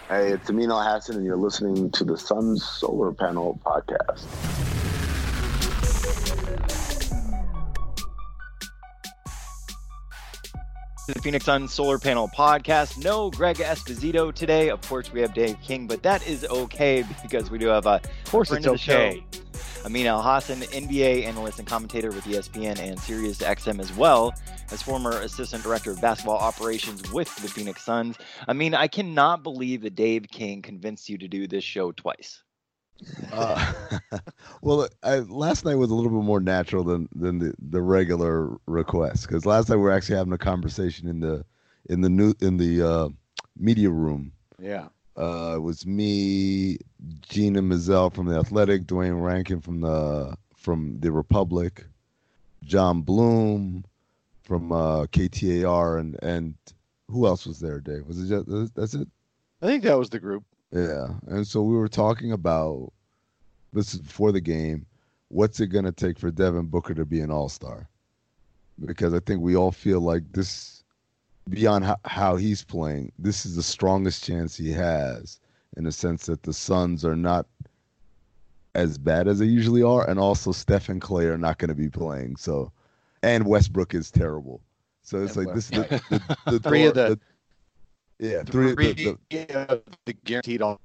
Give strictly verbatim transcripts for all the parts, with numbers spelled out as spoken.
Hey, it's Amin Al Hassan, and you're listening to the Sun Solar Panel Podcast. The Phoenix Sun Solar Panel Podcast. No Greg Esposito today. Of course, we have Dave King, but that is okay because we do have a of course friend it's of the okay. show, Amin Al Hassan, N B A analyst and commentator with E S P N and Sirius X M, as well as former assistant director of basketball operations with the Phoenix Suns. I mean, I cannot believe that Dave King convinced you to do this show twice. Uh, well, I, last night was a little bit more natural than than the, the regular request, because last night we were actually having a conversation in the in the new in the uh, media room. Yeah, uh, it was me, Gina Mizell from the Athletic, Dwayne Rankin from the from the Republic, John Bloom from uh, K T A R, and and who else was there? Dave, was it just that's it? I think that was the group. Yeah, and so we were talking about, this is before the game, what's it going to take for Devin Booker to be an all-star? Because I think we all feel like this, beyond how, how he's playing, this is the strongest chance he has, in the sense that the Suns are not as bad as they usually are, and also Steph and Clay are not going to be playing. So, and Westbrook is terrible. So it's And like this is West- the, the, the Three door- of the- yeah, three, Three the, the, of the guaranteed all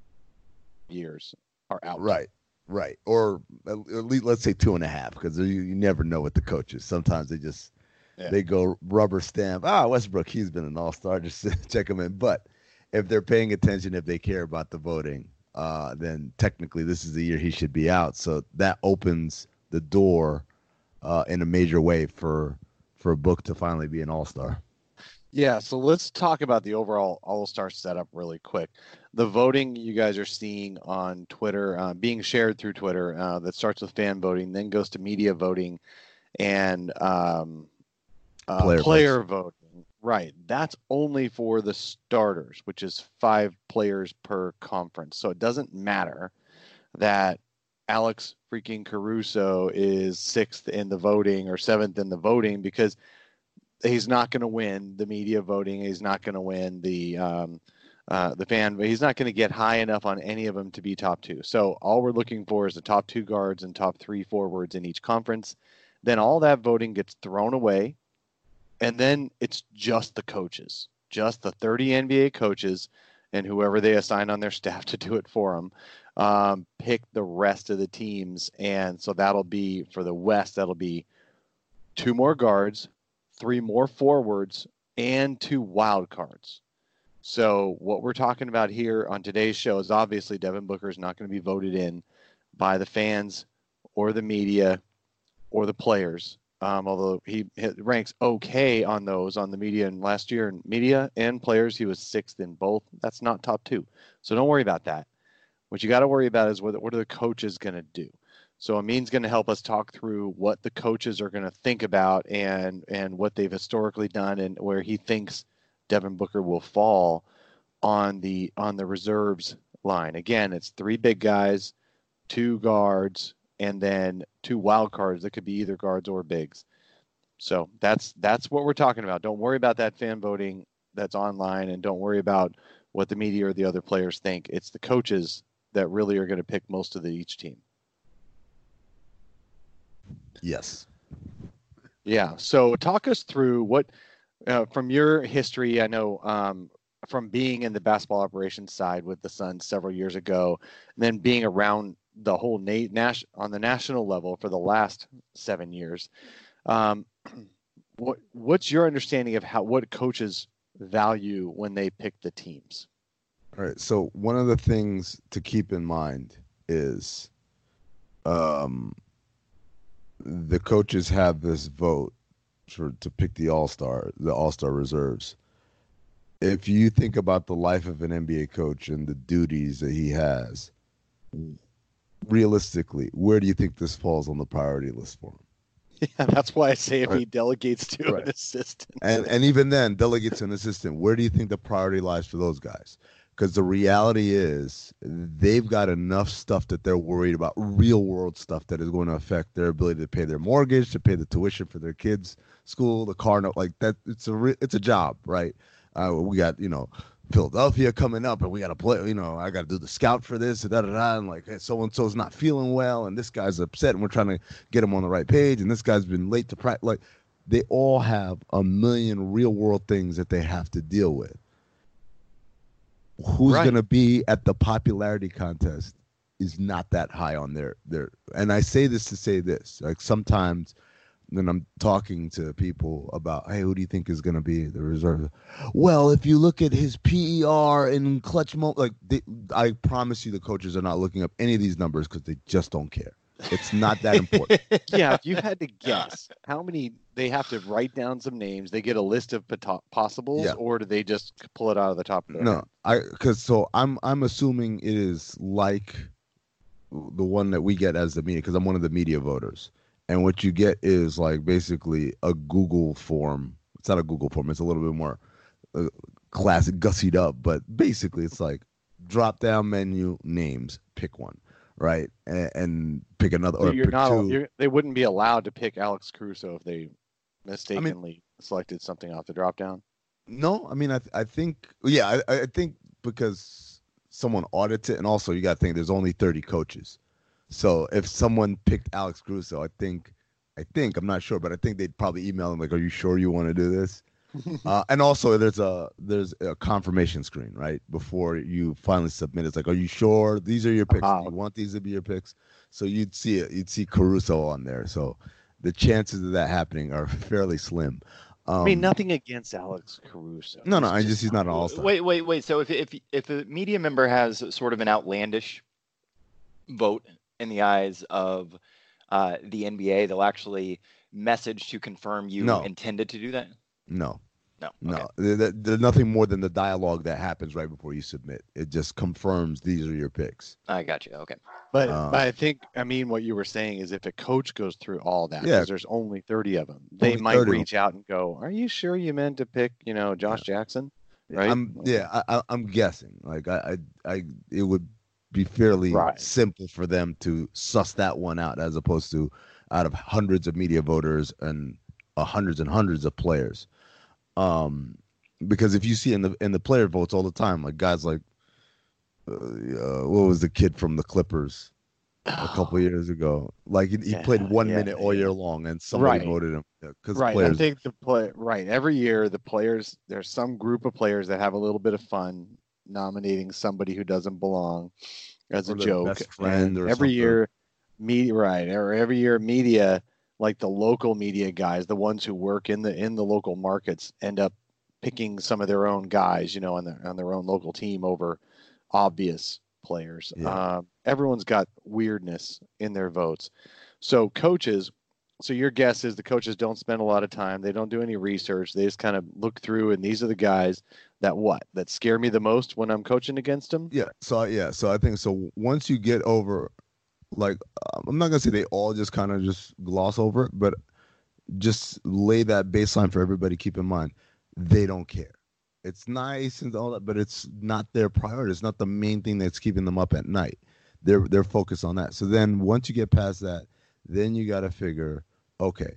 years are out. Right, right. Or at least let's say two and a half, because you, you never know with the coaches. Sometimes they just Yeah. they go rubber stamp. Ah, Westbrook, he's been an all-star. Just check him in. But if they're paying attention, if they care about the voting, uh, then technically this is the year he should be out. So that opens the door uh, in a major way for for Book to finally be an all-star. Yeah, so let's talk about the overall All-Star setup really quick. The voting you guys are seeing on Twitter, uh, being shared through Twitter, uh, that starts with fan voting, then goes to media voting, and um, uh, Player player voting. Right, that's only for the starters, which is five players per conference. So it doesn't matter that Alex freaking Caruso is sixth in the voting or seventh in the voting, because he's not going to win the media voting. He's not going to win the um, uh, the fan, but he's not going to get high enough on any of them to be top two. So all we're looking for is the top two guards and top three forwards in each conference. Then all that voting gets thrown away, and then it's just the coaches, just the thirty N B A coaches and whoever they assign on their staff to do it for them, um, pick the rest of the teams. And so that'll be, for the West, that'll be two more guards, three more forwards, and two wild cards. So what we're talking about here on today's show is obviously Devin Booker is not going to be voted in by the fans or the media or the players, um, although he, he ranks okay on those on the media. And last year in media and players, he was sixth in both. That's not top two. So don't worry about that. What you got to worry about is what, what are the coaches going to do? So Amin's going to help us talk through what the coaches are going to think about and and what they've historically done and where he thinks Devin Booker will fall on the on the reserves line. Again, it's three big guys, two guards, and then two wild cards that could be either guards or bigs. So that's that's what we're talking about. Don't worry about that fan voting that's online, and don't worry about what the media or the other players think. It's the coaches that really are going to pick most of the each team. Yes. Yeah. So talk us through what, uh, from your history, I know um, from being in the basketball operations side with the Suns several years ago, and then being around the whole na- nas- on the national level for the last seven years. Um, what what's your understanding of how what coaches value when they pick the teams? All right. So one of the things to keep in mind is, um, the coaches have this vote for to pick the all-star, the all-star reserves. If you think about the life of an N B A coach and the duties that he has, realistically, where do you think this falls on the priority list for him? Yeah, that's why I say if Right. he delegates to Right. an assistant. And and even then, delegate to an assistant. Where do you think the priority lies for those guys? Because the reality is they've got enough stuff that they're worried about, real world stuff that is going to affect their ability to pay their mortgage, to pay the tuition for their kids' school, the car note, like that. It's a re- it's a job, right? Uh, we got, you know, Philadelphia coming up, and we got to play. You know, I got to do the scout for this, da da da. And like, hey, so and so's not feeling well, and this guy's upset, and we're trying to get him on the right page, and this guy's been late to practice. Like, they all have a million real world things that they have to deal with. Who's Right. going to be at the popularity contest is not that high on their their. And I say this to say this: like sometimes. Then I'm talking to people about, hey, who do you think is going to be the reserve? Well, if you look at his P E R and clutch mo, like they, I promise you, the coaches are not looking up any of these numbers because they just don't care. It's not that important. Yeah, if you had to guess how many, they have to write down some names. They get a list of poto- possibles, Yeah. or do they just pull it out of the top of their No, head? I because so I'm I'm assuming it is like the one that we get as the media because I'm one of the media voters. And what you get is like basically a Google form. It's not a Google form. It's a little bit more uh, classic, gussied up. But basically, it's like drop down menu names, pick one, right, and, and pick another So or you're pick not, two. you're, they wouldn't be allowed to pick Alex Caruso if they mistakenly selected something off the drop down. No, I mean I I think yeah I I think because someone audits it, and also you got to think there's only thirty coaches. So if someone picked Alex Caruso, I think, I think I'm not sure, but I think they'd probably email him like, "Are you sure you want to do this?" uh, and also, there's a there's a confirmation screen right before you finally submit. It's like, "Are you sure these are your picks? Uh-huh. Do you want these to be your picks?" So you'd see it. You'd see Caruso on there. So the chances of that happening are fairly slim. Um, I mean, nothing against Alex Caruso. No, no, He's I just he's not an all-star. Wait, wait, wait. So if if if a media member has sort of an outlandish vote in the eyes of uh, the N B A, they'll actually message to confirm you No. intended to do that? No. No. No, Okay. there- there- there's nothing more than the dialogue that happens right before you submit. It just confirms these are your picks. I got you. Okay. But, Uh, but I think, I mean, what you were saying is if a coach goes through all that, Yeah. because there's only thirty of them, they Only might thirty of reach out and go, "Are you sure you meant to pick, you know, Josh Jackson?" Right? I'm yeah, I, I, I'm guessing. Like I, I, I, it would be fairly Right. simple for them to suss that one out, as opposed to out of hundreds of media voters and uh, hundreds and hundreds of players. Um, because if you see in the in the player votes all the time, like guys like, uh, uh, what was the kid from the Clippers a couple of years ago? Like he, he Yeah, played one yeah, minute all yeah. year long, and somebody Right. voted him because Right. players. I think the play right. Every year the players, there's some group of players that have a little bit of fun nominating somebody who doesn't belong as a Or their joke. best friend And or every something. year media right, or every year media, like the local media guys, the ones who work in the in the local markets, end up picking some of their own guys, you know, on their on their own local team over obvious players. Yeah. Um, everyone's got weirdness in their votes. So coaches, so your guess is the coaches don't spend a lot of time. They don't do any research. They just kind of look through, and these are the guys that what that scare me the most when I'm coaching against them. Yeah. So yeah. So I think so. Once you get over, like, um, I'm not gonna say they all just kind of just gloss over it, but just lay that baseline for everybody. Keep in mind, they don't care. It's nice and all that, but it's not their priority. It's not the main thing that's keeping them up at night. They're they're focused on that. So then once you get past that, then you got to figure, okay,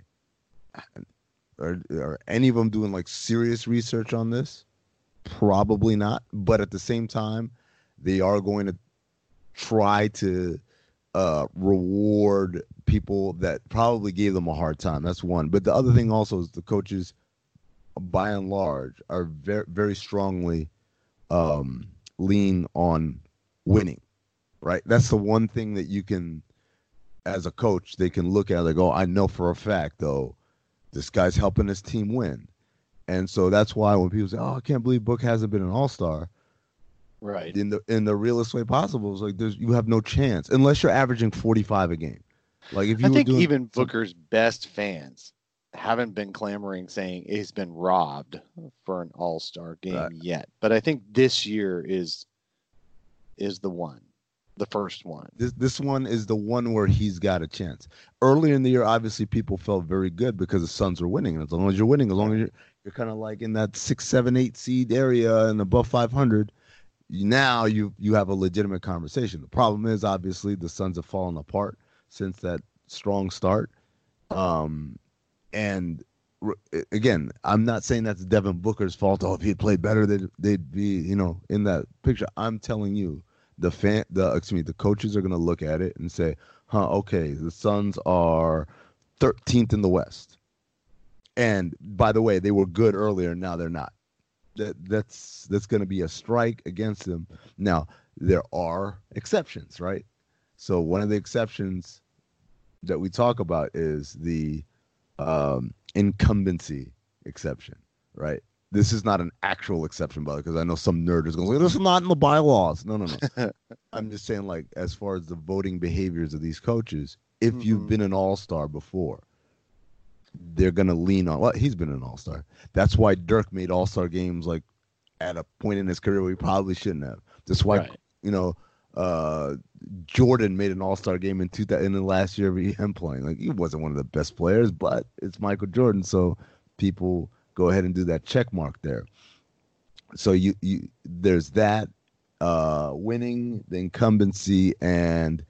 are are any of them doing like serious research on this? Probably not. But at the same time, they are going to try to uh, reward people that probably gave them a hard time. That's one. But the other thing also is the coaches, by and large, are very very strongly um, lean on winning. Right. That's the one thing that you can, as a coach, they can look at like, oh, I know for a fact though, this guy's helping his team win. And so that's why when people say, "Oh, I can't believe Book hasn't been an all-star," Right. in the in the realest way possible, it's like there's you have no chance unless you're averaging forty-five a game. Like if you I were think doing even some- Booker's best fans haven't been clamoring saying he's been robbed for an all-star game Right. yet. But I think this year is is the one, the first one. this this one is the one where he's got a chance. Earlier in the year, obviously people felt very good because the Suns were winning, and as long as you're winning, as long as you're you're kind of like in that six, seven, eight seed area and above five hundred. Now you you have a legitimate conversation. The problem is obviously the Suns have fallen apart since that strong start, um, and again, I'm not saying that's Devin Booker's fault. Oh, if he had played better, they'd, they'd be, you know, in that picture. I'm telling you, the fan, the excuse me, the coaches are going to look at it and say, huh, okay, the Suns are thirteenth in the West. And by the way, they were good earlier. Now they're not. That that's that's going to be a strike against them. Now there are exceptions, right? So one of the exceptions that we talk about is the um, incumbency exception, right? This is not an actual exception, brother, because I know some nerd is going to say, this is not in the bylaws. No, no, no. I'm just saying, like, as far as the voting behaviors of these coaches, if mm-hmm. you've been an all-star before, they're going to lean on, well, he's been an all-star. That's why Dirk made all-star games, like, at a point in his career where he probably shouldn't have. That's why, right. you know, uh, Jordan made an all-star game in two thousand in the last year of him playing. Like, he wasn't one of the best players, but it's Michael Jordan, so people go ahead and do that check mark there. So you, you there's that uh, winning, the incumbency, and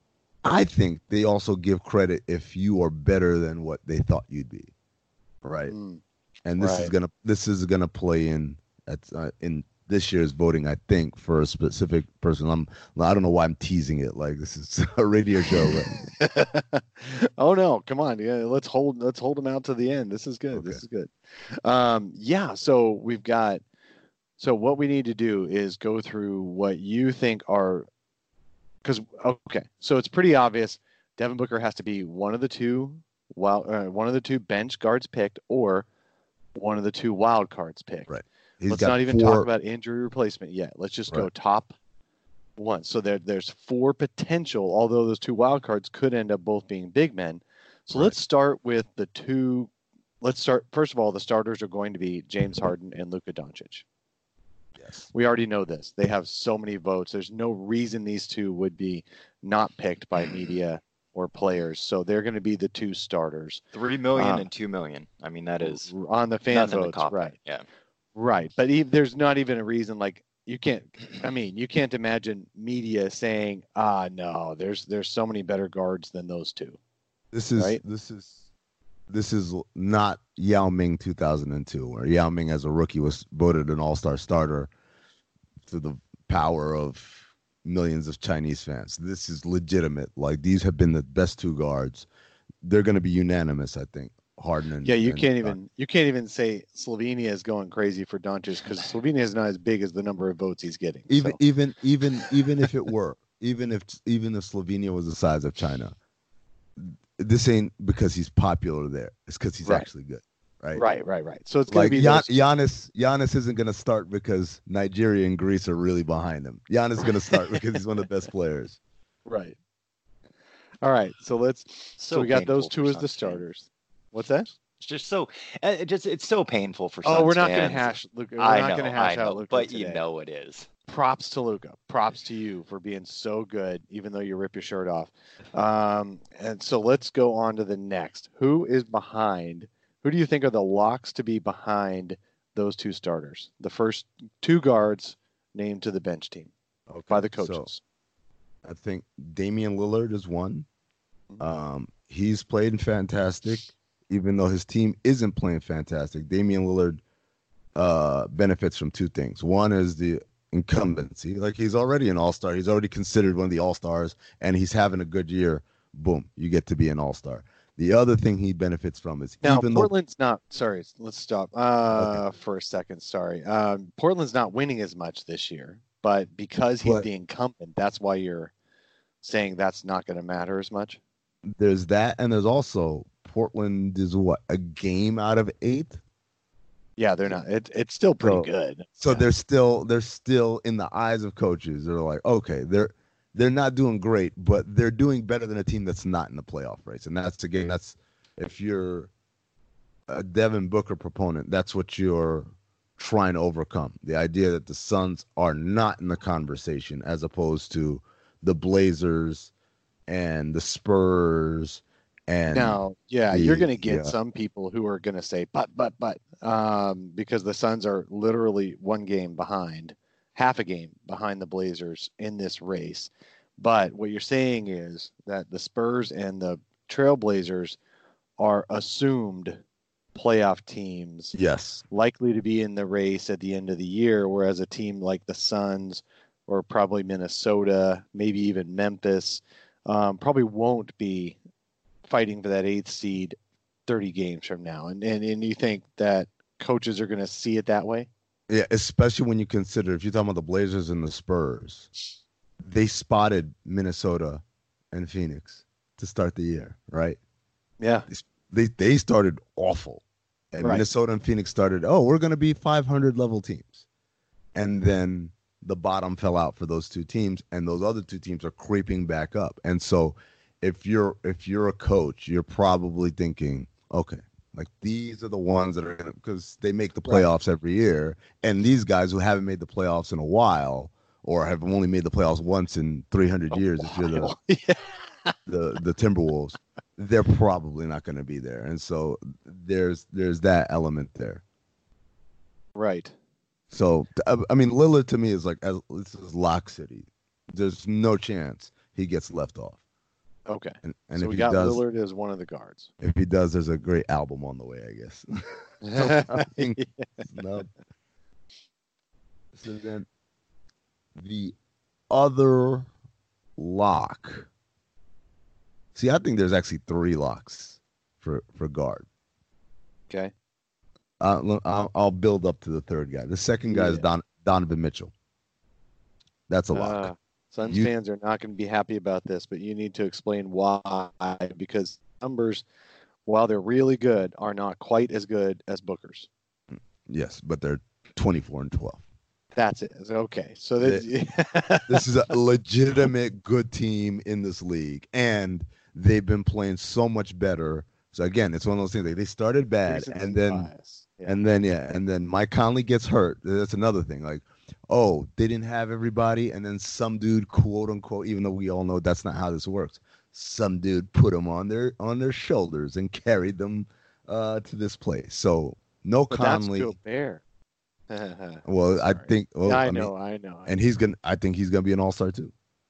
I think they also give credit if you are better than what they thought you'd be, right? Mm, and this right. is gonna this is gonna play in at uh, in this year's voting, I think, for a specific person. I'm I don't know why I'm teasing it like this is a radio show. But... oh no, come on, yeah, let's hold let's hold them out to the end. This is good. Okay. This is good. Um, yeah, so we've got. So what we need to do is go through what you think are. Because okay, so it's pretty obvious. Devin Booker has to be one of the two wild, uh, one of the two bench guards picked, or one of the two wild cards picked. Right. He's Let's not even four... talk about injury replacement yet. Let's just right. go top one. So there, there's four potential. Although those two wild cards could end up both being big men. So right. let's start with the two. Let's start. First of all, the starters are going to be James Harden and Luka Doncic. Yes. We already know this. They have so many votes. There's no reason these two would be not picked by media or players. So they're going to be the two starters. Three million um, and two million. I mean, that is on the fan votes, right? Yeah, right. But even, there's not even a reason. Like you can't. I mean, you can't imagine media saying, "Ah, no, there's there's so many better guards than those two." This is right? this is this is not Yao Ming two thousand two, where Yao Ming as a rookie was voted an all-star starter to the power of millions of Chinese fans. This is legitimate. Like, these have been the best two guards. They're going to be unanimous, I think. Harden and yeah, you and, can't uh, even you can't even say Slovenia is going crazy for Doncic because Slovenia is not as big as the number of votes he's getting. Even so. even even even if it were, even if even if Slovenia was the size of China, this ain't because he's popular there. It's because he's right. actually good. Right, right, right, right. So it's going like to be Gian- those... Giannis. Giannis isn't going to start because Nigeria and Greece are really behind him. Giannis is going to start because he's one of the best players. Right. All right. So let's. So, so we got those two as the starters. Fans. What's that? It's just so. It just it's so painful for. Oh, Suns we're not going to hash. Luka. We're I not know, going to hash I know, out Luka but today. You know it is. Props to Luka. Props to you for being so good, even though you rip your shirt off. Um, and so let's go on to the next. Who is behind? Who do you think are the locks to be behind those two starters? The first two guards named to the bench team okay, by the coaches. So I think Damian Lillard is one. Um, he's played fantastic, even though his team isn't playing fantastic. Damian Lillard uh, benefits from two things. One is the incumbency. Like, he's already an all-star. He's already considered one of the all-stars, and he's having a good year. Boom, you get to be an all-star. The other thing he benefits from is now even Portland's though... not. Sorry, let's stop uh, okay. for a second. Sorry, um, Portland's not winning as much this year, but because he's but, the incumbent, that's why you're saying that's not going to matter as much. There's that, and there's also Portland is what, a game out of eight. Yeah, they're not. It, it's still pretty so, good. So yeah. they're still they're still in the eyes of coaches. They're like, okay, they're. They're not doing great, but they're doing better than a team that's not in the playoff race. And that's, again, that's if you're a Devin Booker proponent, that's what you're trying to overcome. The idea that the Suns are not in the conversation as opposed to the Blazers and the Spurs. And now, yeah, the, you're going to get yeah. some people who are going to say, but, but, but, um, because the Suns are literally one game behind. Half a game behind the Blazers in this race. But what you're saying is that the Spurs and the Trailblazers are assumed playoff teams Yes. likely to be in the race at the end of the year, whereas a team like the Suns or probably Minnesota, maybe even Memphis, um, probably won't be fighting for that eighth seed thirty games from now. And and, and you think that coaches are going to see it that way? Yeah, especially when you consider, if you're talking about the Blazers and the Spurs, they spotted Minnesota and Phoenix to start the year, right? Yeah. They they started awful. And Right. Minnesota and Phoenix started, oh, we're going to be five hundred level teams. And then the bottom fell out for those two teams, and those other two teams are creeping back up. And so if you're if you're a coach, you're probably thinking, okay, like these are the ones that are going to, because they make the playoffs every year, and these guys who haven't made the playoffs in a while or have only made the playoffs once in three hundred years, if you're the, yeah. the the Timberwolves, they're probably not going to be there. And so there's there's that element there. Right. So I mean, Lillard to me is like, as, this is Lock City. There's no chance he gets left off. Okay. And, and so if we he got does, Lillard as one of the guards. if he does, there's a great album on the way, I guess. So, I mean, snub. So then the other lock. See, I think there's actually three locks for, for guard. Okay. Uh, look, I'll, I'll build up to the third guy. The second guy is Yeah. Don, Donovan Mitchell. That's a lock. Uh, Suns You- fans are not going to be happy about this, but you need to explain why. Because numbers, while they're really good, are not quite as good as Booker's. Yes, but they're twenty-four and twelve. That's it. Okay. So that, This is a legitimate good team in this league, and they've been playing so much better. So again, it's one of those things. Like they started bad, recency and then bias. Yeah. and then yeah, and then Mike Conley gets hurt. That's another thing. Like, oh, they didn't have everybody, and then some dude, quote unquote, even though we all know that's not how this works, some dude put them on their on their shoulders and carried them uh, to this place. So no But Conley. that's Gobert. Well, I Sorry. think. Well, Yeah, I, I mean, know, I know. I and he's gonna. I think he's gonna be an all-star too.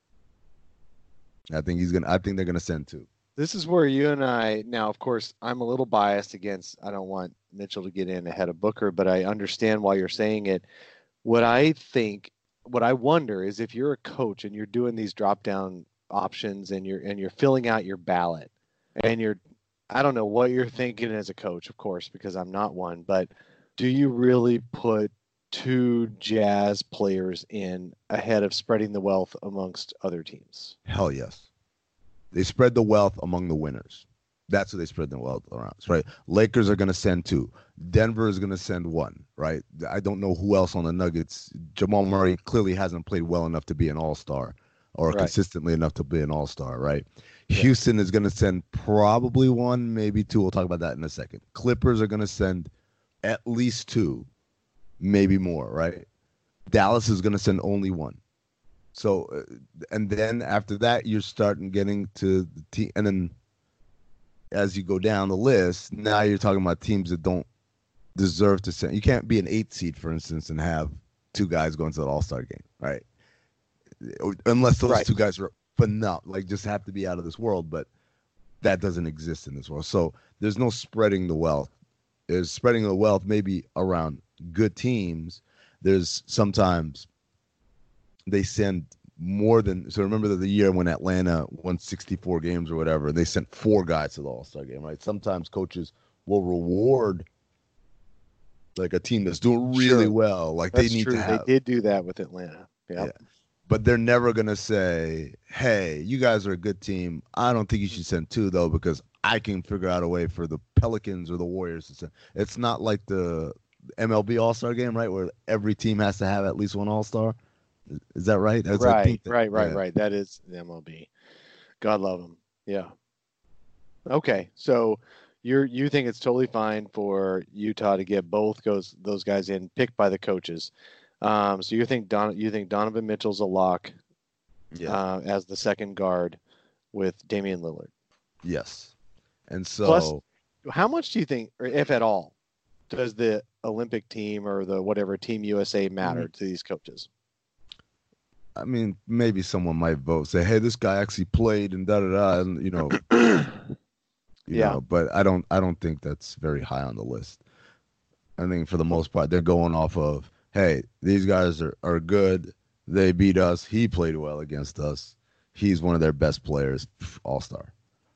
I think he's gonna. I think they're gonna send two. This is where you and I now, of course, I'm a little biased against. I don't want Mitchell to get in ahead of Booker, but I understand why you're saying it. What I think, what I wonder is if you're a coach and you're doing these drop down options and you're and you're filling out your ballot and you're, I don't know what you're thinking as a coach, of course, because I'm not one, but do you really put two Jazz players in ahead of spreading the wealth amongst other teams? Hell yes. They spread the wealth among the winners. That's what they spread the wealth around, right? Lakers are going to send two. Denver is going to send one, right? I don't know who else on the Nuggets. Jamal Murray clearly hasn't played well enough to be an all-star or Right. consistently enough to be an all-star, right? Yeah. Houston is going to send probably one, maybe two. We'll talk about that in a second. Clippers are going to send at least two, maybe more, right? Dallas is going to send only one. So, uh, and then after that, you're starting getting to the team, and then as you go down the list, now you're talking about teams that don't deserve to send. You can't be an eight seed, for instance, and have two guys going to the All-Star game, right? Unless those Right. two guys are phenomenal, like just have to be out of this world, but that doesn't exist in this world. So there's no spreading the wealth. There's spreading the wealth maybe around good teams. There's sometimes they send more than, so remember that the year when Atlanta won sixty-four games or whatever, they sent four guys to the All-Star game, right? Sometimes coaches will reward like a team that's doing really Sure. well. Like That's they need true. to have, They did do that with Atlanta. Yeah. Yeah. but they're never going to say, hey, you guys are a good team. I don't think you should send two though, because I can figure out a way for the Pelicans or the Warriors to send. It's not like the M L B All-Star game, right? Where every team has to have at least one All-Star. Is that right? That's, I Right, think that- right, right, yeah. right. That is the M L B. God love them. Yeah. Okay, so you're you think it's totally fine for Utah to get both those those guys in, picked by the coaches. Um, so you think Don you think Donovan Mitchell's a lock Yeah. uh, as the second guard with Damian Lillard. Yes. And so Plus- How much do you think, or if at all, does the Olympic team or the whatever Team U S A matter Mm-hmm. to these coaches? I mean, maybe someone might vote, say, hey, this guy actually played and da da da, and you know, You Yeah. know, but I don't I don't think that's very high on the list. I think for the most part they're going off of, hey, these guys are, are good. They beat us. He played well against us. He's one of their best players, all star.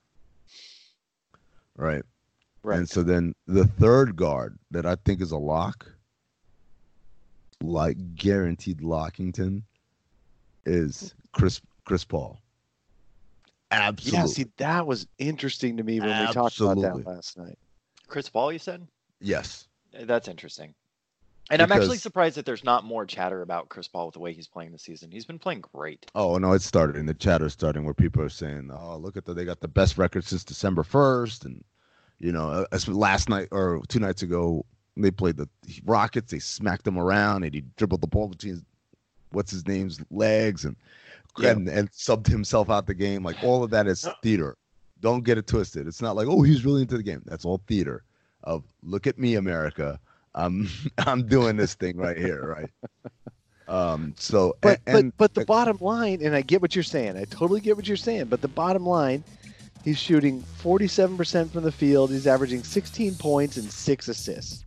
Right. Right. And so then the third guard that I think is a lock, like guaranteed Lockington, is Chris Chris Paul. Absolutely. Yeah, see, that was interesting to me when we talked about Absolutely. that last night. Chris Paul, you said? Yes. That's interesting. And I'm actually Because- surprised that there's not more chatter about Chris Paul with the way he's playing this season. He's been playing great. Oh no, it started in the chatter starting where people are saying, "Oh, look at the they got the best record since December first," and you know, as last night or two nights ago they played the Rockets. They smacked him around and he dribbled the ball between his, what's his name's legs and Yeah. and, and subbed himself out the game. Like all of that is theater. Don't get it twisted. It's not like, oh, he's really into the game. That's all theater. Of look at me, America. I'm I'm doing this thing right here, right? Um. So, But and, but but the bottom line, and I get what you're saying. I totally get what you're saying. But the bottom line, he's shooting forty-seven percent from the field. He's averaging sixteen points and six assists.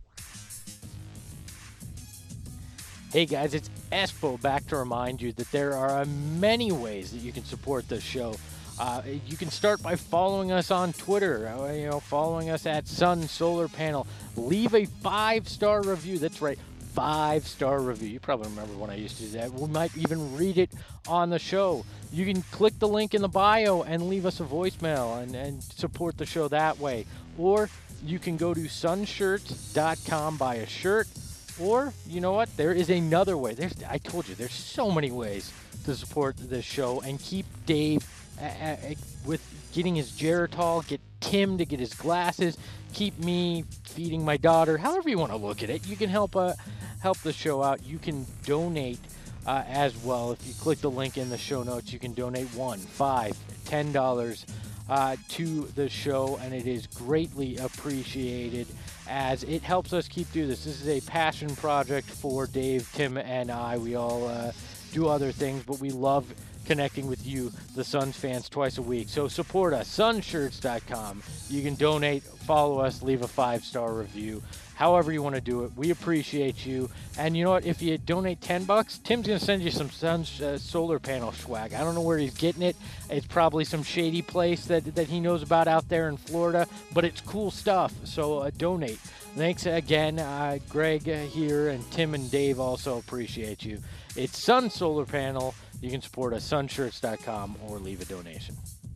Hey guys, it's Espo back to remind you that there are many ways that you can support this show. Uh, you can start by following us on Twitter, uh, you know, following us at Sun Solar Panel. Leave a five-star review. That's right, five-star review. You probably remember when I used to do that. We might even read it on the show. You can click the link in the bio and leave us a voicemail and, and support the show that way. Or you can go to sunshirts dot com, buy a shirt. Or, you know what, there is another way. There's, I told you, there's so many ways to support this show and keep Dave uh, uh, with getting his Geritol, get Tim to get his glasses, keep me feeding my daughter, however you want to look at it. You can help uh, help the show out. You can donate uh, as well. If you click the link in the show notes, you can donate one, five, ten dollars uh, to the show, and it is greatly appreciated as it helps us keep doing this. This is a passion project for Dave, Tim, and I. We all uh, do other things, but we love connecting with you, the Suns fans, twice a week. So support us, sunshirts dot com. You can donate, follow us, leave a five-star review. However you want to do it, we appreciate you. And you know what? If you donate ten bucks, Tim's going to send you some sun uh, solar panel swag. I don't know where he's getting it. It's probably some shady place that, that he knows about out there in Florida, but it's cool stuff. So uh, donate. Thanks again, uh, Greg uh, here, and Tim and Dave also appreciate you. It's Sun Solar Panel. You can support us, sunshirts dot com, or leave a donation.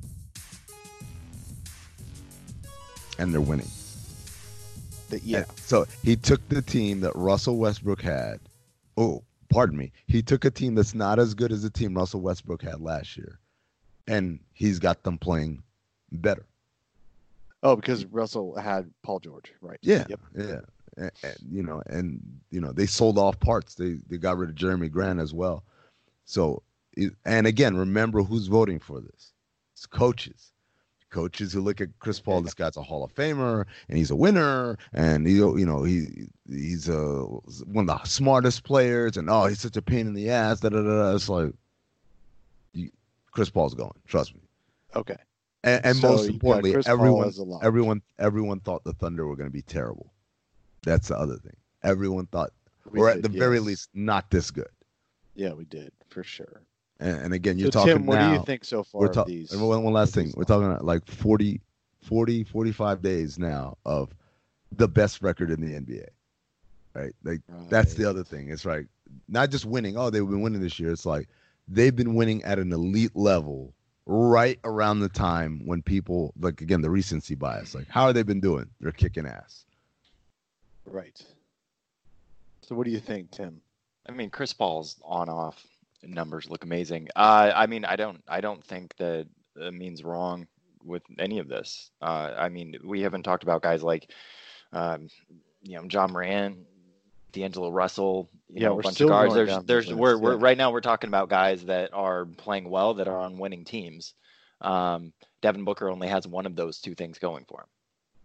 and they're winning. That- yeah. And so he took the team that Russell Westbrook had. Oh, pardon me. He took a team that's not as good as the team Russell Westbrook had last year, and he's got them playing better. Oh, because Russell had Paul George, right? Yeah, Yep. yeah. And, and, you know, and you know, they sold off parts. They they got rid of Jeremy Grant as well. So, it- and again, remember who's voting for this? It's coaches. Coaches who look at Chris Paul. This guy's a Hall of Famer, and he's a winner, and he, you know, he he's a one of the smartest players, and oh, he's such a pain in the ass. Da da da. da. It's like, you, Chris Paul's going. Trust me. Okay. And, and So most you got importantly, Chris Paul everyone, as a lock. everyone, everyone thought the Thunder were going to be terrible. That's the other thing. Everyone thought, We or at did, the very yes. least, not this good. Yeah, we did for sure. And, and again, you're So talking Tim, what now. do you think so far We're of talking. these? One, one last of thing. these We're talking about like forty, forty, forty-five days now of the best record in the N B A. Right? Like that's the Right. other thing. It's like not just winning. Oh, they've been winning this year. It's like they've been winning at an elite level right around the time when people like again the recency bias. Like how have they been doing? They're kicking ass. Right. So what do you think, Tim? I mean, Chris Paul's on-off numbers look amazing. Uh, I mean, I don't, I don't think that it means wrong with any of this. Uh, I mean, we haven't talked about guys like, um, you know, John Moran, D'Angelo Russell. You Yeah, know, we're a bunch still of guys. going There's, down the there's, list, we're, we're yeah. right now we're talking about guys that are playing well, that are on winning teams. Um, Devin Booker only has one of those two things going for him.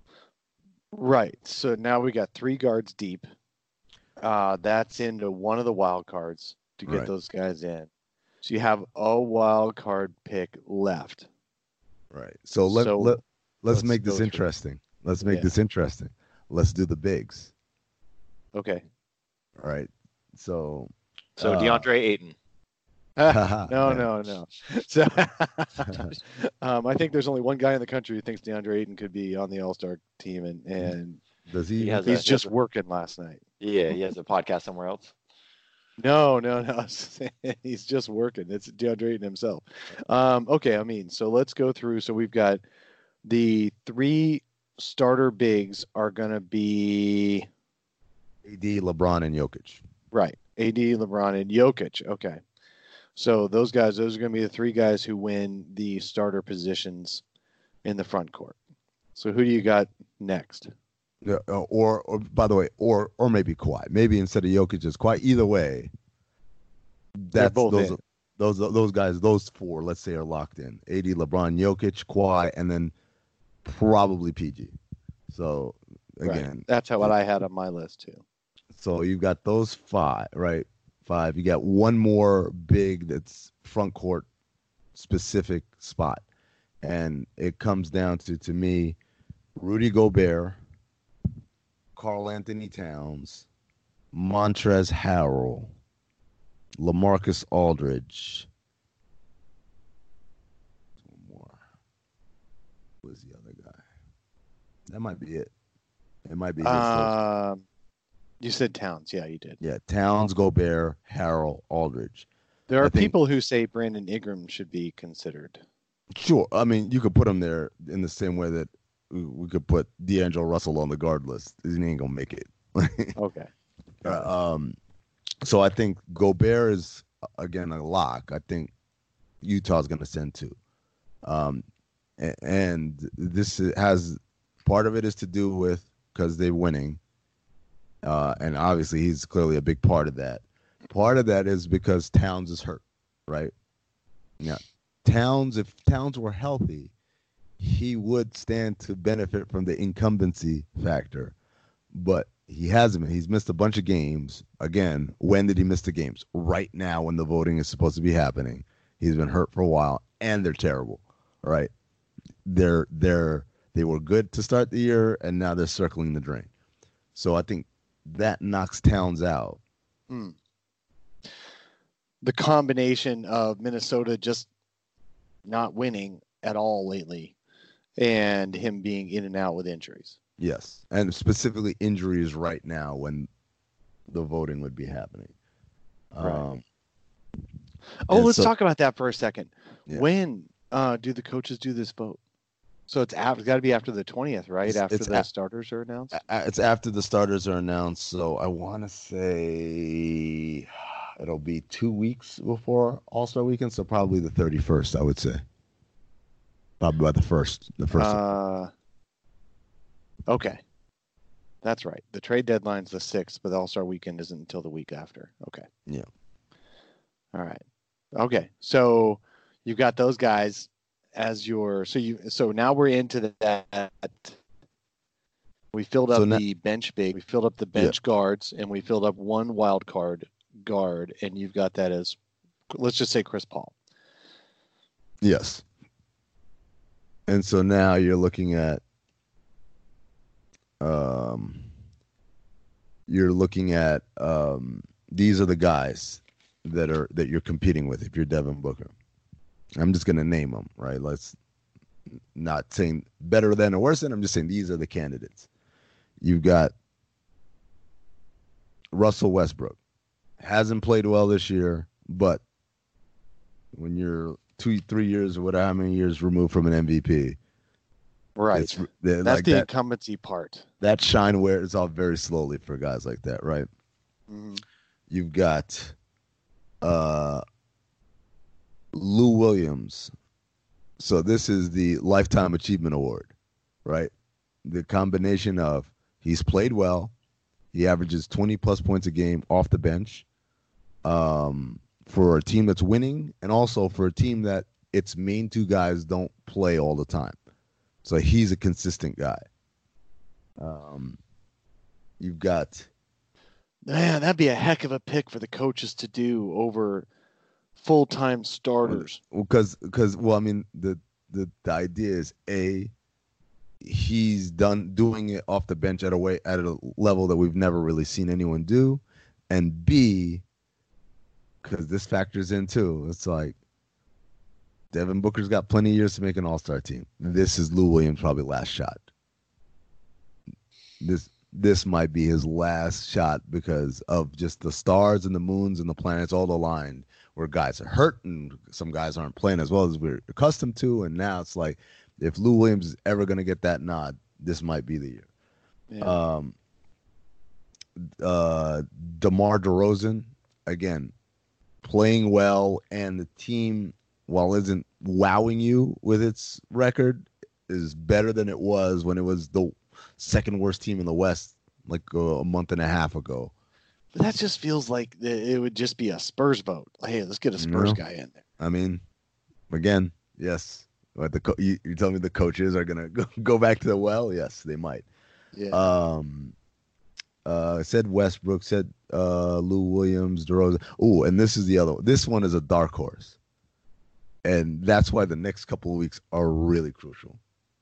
Right. So now we got three guards deep. Uh, that's into one of the wild cards to get Right. those guys in. So you have a wild card pick left. Right. So let, So- let let's, let's make go this through. interesting. Let's make Yeah. this interesting. Let's do the bigs. Okay. All right. So, So uh, DeAndre Ayton. no, yeah. no, no. So, um, I think there's only one guy in the country who thinks DeAndre Ayton could be on the All Star team, and and Does he? He has he's a- just a- working last night. Yeah, he has a podcast somewhere else. No, no, no. He's just working. It's DeAndre Ayton himself. Um, okay, I mean, so let's go through. So we've got the three starter bigs are going to be A D, LeBron, and Jokic. right. A D, LeBron, and Jokic. Okay. So those guys, those are going to be the three guys who win the starter positions in the front court. So who do you got next? Yeah, uh, or, or by the way, or or maybe Kawhi. Maybe instead of Jokic, it's Kawhi. Either way, They're that's both those in. are, those those guys. Those four, let's say, are locked in. A D, LeBron, Jokic, Kawhi, and then probably P G. So again, Right. That's how what I had on my list too. so you've got those five, right? Five. You got one more big that's front court specific spot, and it comes down to to me, Rudy Gobert, Karl Anthony Towns, Montrezl Harrell, LaMarcus Aldridge. One more. Who is the other guy? That might be it. It might be his first. Um, you said Towns. Yeah, you did. Yeah, Towns, Gobert, Harrell, Aldridge. There I are think- people who say Brandon Ingram should be considered. Sure. I mean, you could put him there in the same way that we, we could put D'Angelo Russell on the guard list. He ain't gonna make it. Okay. Uh, um, so I think Gobert is again a lock. I think Utah's going to send two, um, and, and this has part of it is to do with because they're winning, uh, and obviously he's clearly a big part of that. Part of that is because Towns is hurt, right? Yeah, Towns. If Towns were healthy, he would stand to benefit from the incumbency factor, but he hasn't been. He's missed a bunch of games. Again, when did he miss the games? Right now when the voting is supposed to be happening. He's been hurt for a while, and they're terrible, right? They're they're they were good to start the year, and now they're circling the drain. So I think that knocks Towns out. Hmm. The combination of Minnesota just not winning at all lately and him being in and out with injuries. Yes, and specifically injuries right now when the voting would be happening. Right. Um, Oh, And let's so- talk about that for a second. Yeah. When uh, do the coaches do this vote? So it's, af- it's got to be after the twentieth, right? It's- after it's the a- starters are announced? a- It's after the starters are announced, so I want to say it'll be two weeks before All Star Weekend, so probably the thirty-first, I would say. Probably by the first, the first. Uh, okay. That's right. The trade deadline's the sixth, but the All-Star weekend isn't until the week after. Okay. Yeah. All right. Okay. So you've got those guys as your so you so now we're into that. We filled up So now- the bench big, we filled up the bench guards, and we filled up one wild card guard, and you've got that as let's just say Chris Paul. Yes. And so now you're looking at um you're looking at um these are the guys that are that you're competing with if you're Devin Booker. I'm just going to name them, right? Let's not saying better than or worse than, I'm just saying these are the candidates. You've got Russell Westbrook. Hasn't played well this year, but when you're two, three years or whatever, how many years removed from an M V P, Right. it's they're That's like the that. incumbency part. That shine wears off very slowly for guys like that, right? Mhm. You've got uh, Lou Williams. So this is the Lifetime Achievement Award, right? The combination of he's played well, he averages twenty plus points a game off the bench, um, for a team that's winning, and also for a team that its main two guys don't play all the time. So he's a consistent guy. Um, you've got Man, that'd be a heck of a pick for the coaches to do over full-time starters. because because well, I mean the the the idea is a he's done doing it off the bench at a way at a level that we've never really seen anyone do, and B, because this factors in too. It's like Devin Booker's got plenty of years to make an All-Star team. This is Lou Williams' probably last shot. This this might be his last shot because of just the stars and the moons and the planets all aligned, where guys are hurt and some guys aren't playing as well as we're accustomed to. And now it's like, if Lou Williams is ever going to get that nod, this might be the year. Yeah. Um, uh, DeMar DeRozan, again, playing well, and the team, while isn't wowing you with its record, is better than it was when it was the second worst team in the West like uh, a month and a half ago. But that just feels like it would just be a Spurs vote. Like, hey, let's get a Spurs you know, guy in there. I mean, again, yes. But the co- you, you tell me the coaches are gonna go, go back to the well? Yes, they might. Yeah. Um. Uh. Said Westbrook. Said uh. Lou Williams. DeRozan. Oh, and this is the other one. This one is a dark horse, and that's why the next couple of weeks are really crucial.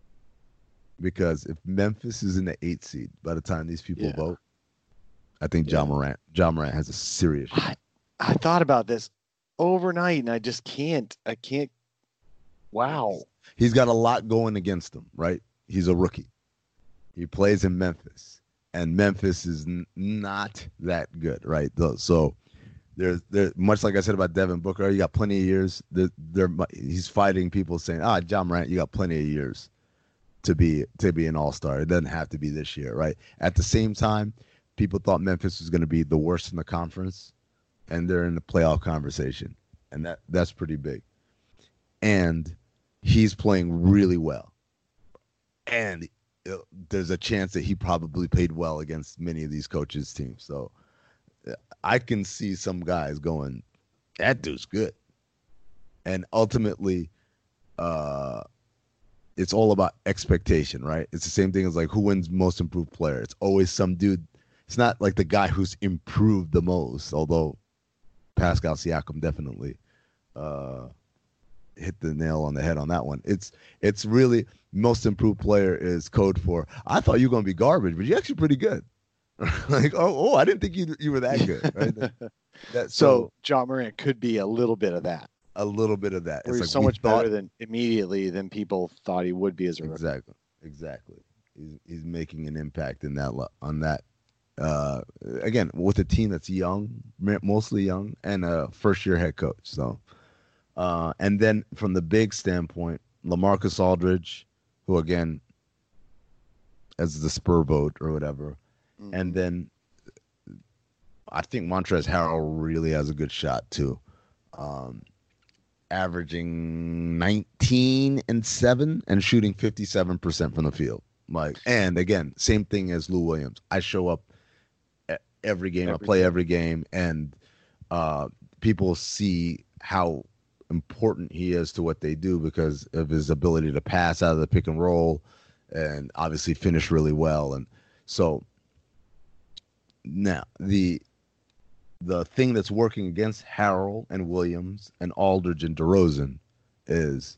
Because if Memphis is in the eighth seed by the time these people yeah. vote, I think yeah. John Morant. John Morant has a serious shot. I, I thought about this overnight, and I just can't. I can't. Wow. He's got a lot going against him, right? He's a rookie. He plays in Memphis, and Memphis is n- not that good, right? So there's there much like I said about Devin Booker, you got plenty of years. There, there he's fighting people saying, "Ah, John Morant, you got plenty of years to be to be an all-star. It doesn't have to be this year," right? At the same time, people thought Memphis was going to be the worst in the conference, and they're in the playoff conversation, and that that's pretty big. And he's playing really well. And there's a chance that he probably played well against many of these coaches' teams. So I can see some guys going, that dude's good. And ultimately, uh, it's all about expectation, right? It's the same thing as like who wins most improved player. It's always some dude. It's not like the guy who's improved the most, although Pascal Siakam definitely uh, hit the nail on the head on that one. It's it's really most improved player is code for, I thought you were going to be garbage, but you're actually pretty good. Like, oh, oh, I didn't think you you were that good. Right? that, that, so, so John Morant could be a little bit of that. A little bit of that. It's like so much thought, better than immediately than people thought he would be as a rookie. Exactly, exactly. He's he's making an impact in that on that. Uh, again, with a team that's young, mostly young, and a first-year head coach. So, uh, and then from the big standpoint, LaMarcus Aldridge, who again, as the Spur vote or whatever, mm-hmm. and then I think Montrezl Harrell really has a good shot too. Um, averaging nineteen and seven and shooting fifty-seven percent from the field. Like, and again, same thing as Lou Williams. I show up every game, every I play game. every game, and uh, people see how important he is to what they do because of his ability to pass out of the pick and roll and obviously finish really well. And so now the The thing that's working against Harrell and Williams and Aldridge and DeRozan is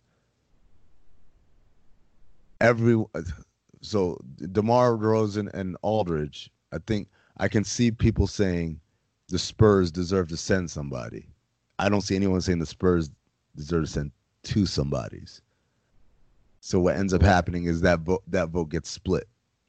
every so DeMar DeRozan and Aldridge. I think I can see people saying the Spurs deserve to send somebody. I don't see anyone saying the Spurs deserve to send two somebodies. So what ends up happening is that vote that vote gets split.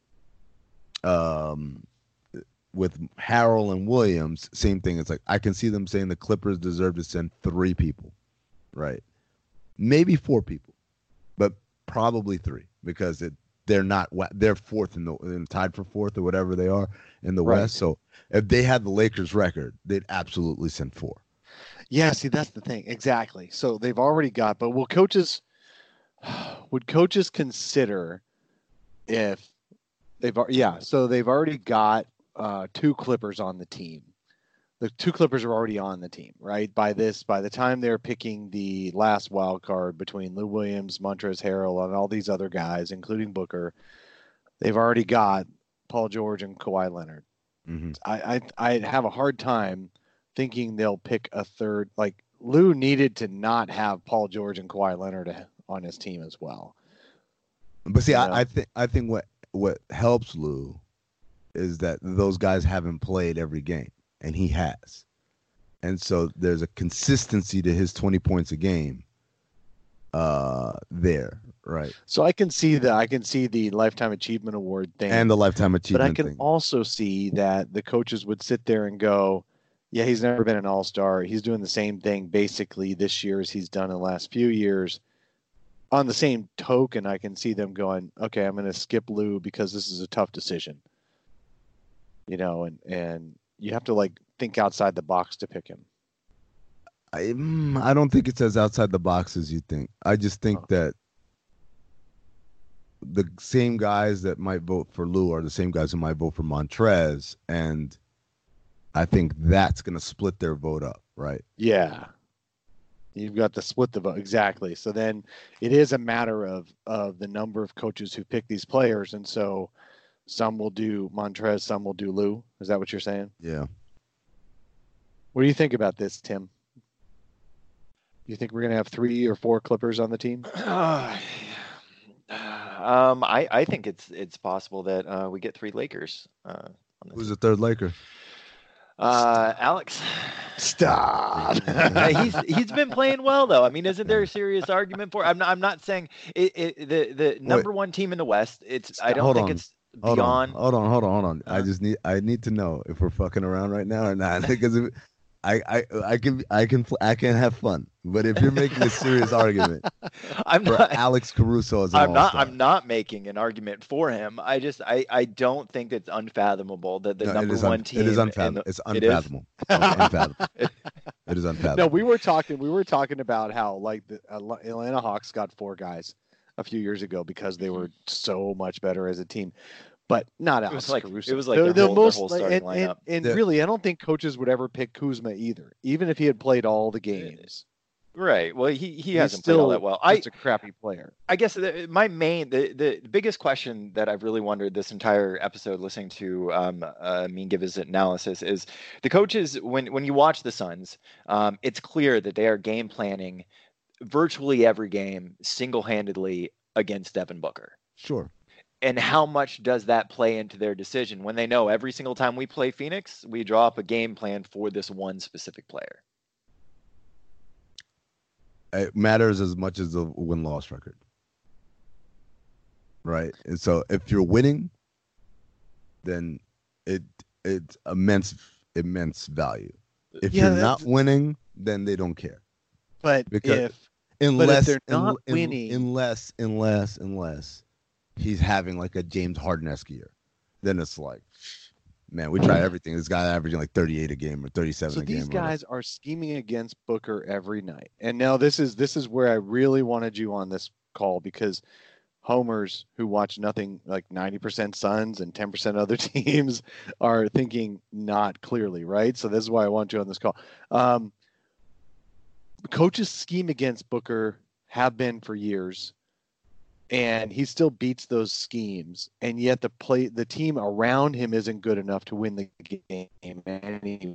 Um. With Harrell and Williams, same thing. It's like I can see them saying the Clippers deserve to send three people, right? Maybe four people, but probably three because it, they're not they're fourth in the in tied for fourth or whatever they are in the right. West. So if they had the Lakers record, they'd absolutely send four. Yeah, see that's the thing exactly. So they've already got, but will coaches would coaches consider if they've yeah? So they've already got. Uh, two Clippers on the team. The two Clippers are already on the team, right? By this, by the time they're picking the last wild card between Lou Williams, Montrezl Harrell, and all these other guys, including Booker, they've already got Paul George and Kawhi Leonard. Mm-hmm. I, I I have a hard time thinking they'll pick a third. Like Lou needed to not have Paul George and Kawhi Leonard on his team as well. But see, You I, know? I think I think what what helps Lou is that those guys haven't played every game, and he has, and so there's a consistency to his twenty points a game. Uh, there, right, So I can see the I can see the lifetime achievement award thing, and the lifetime but I achievement can thing. also see that the coaches would sit there and go, "Yeah, he's never been an all-star. He's doing the same thing basically this year as he's done in the last few years." On the same token, I can see them going, "Okay, I'm going to skip Lou because this is a tough decision." You know, and and you have to like think outside the box to pick him. I, mm, I don't think it's as outside the box as you think. I just think Oh. that the same guys that might vote for Lou are the same guys who might vote for Montrez, and I think that's going to split their vote up, right? Yeah. You've got to split the vote. Exactly. So then it is a matter of, of the number of coaches who pick these players. And so some will do Montrez, some will do Lou. Is that what you're saying? Yeah. What do you think about this, Tim? You think we're going to have three or four Clippers on the team? um, I I think it's it's possible that uh, we get three Lakers. Uh, on the Who's team. the third Laker? Uh, Alex. Stop. Yeah, he's he's been playing well though. I mean, isn't there a serious argument for? I'm not. I'm not saying it. it the the number one team in the West. It's. I don't Hold think on. it's Hold beyond. on, hold on, hold on, hold on. I Uh, just need I need to know if we're fucking around right now or not. Because if, I I I can I can I can have fun, but if you're making a serious argument I'm for not. Alex Caruso as an I'm not. all-star, I'm not making an argument for him. I just. I. I don't think it's unfathomable that the No, it number is un- one team. It is in unfathomable. the- It's it is? unfathomable. It's unfathomable. It is No, unfathomable. we were talking. We were talking about how like the Atla- Atlanta Hawks got four guys a few years ago because they were so much better as a team, but not It Alex was like Caruso. it was like The- their, the whole, their most whole like- starting and, and, lineup. and The- really, I don't think coaches would ever pick Kuzma either, even if he had played all the games. Right. Well, he he He's hasn't played all still that well. I just a crappy player. I guess the, my main the, the biggest question that I've really wondered this entire episode listening to um uh, Mean give his analysis is the coaches when when you watch the Suns, um, it's clear that they are game planning virtually every game single-handedly against Devin Booker. Sure. And how much does that play into their decision when they know every single time we play Phoenix, we draw up a game plan for this one specific player? It matters as much as the win-loss record, right? And so if you're winning, then it it's immense immense value. If Yeah, you're not that's- winning, then they don't care. But Because- if Unless they're not un- winning- unless unless unless he's having like a James Harden-esque year, then it's like, man, we try everything. This guy averaging like thirty-eight a game or thirty-seven so a game. these or whatever. guys are scheming against Booker every night. And now this is this is where I really wanted you on this call because homers who watch nothing like ninety percent Suns and ten percent other teams are thinking not clearly, right? So this is why I want you on this call. Um, coaches scheme against Booker have been for years, and he still beats those schemes, and yet the play the team around him isn't good enough to win the game anyway.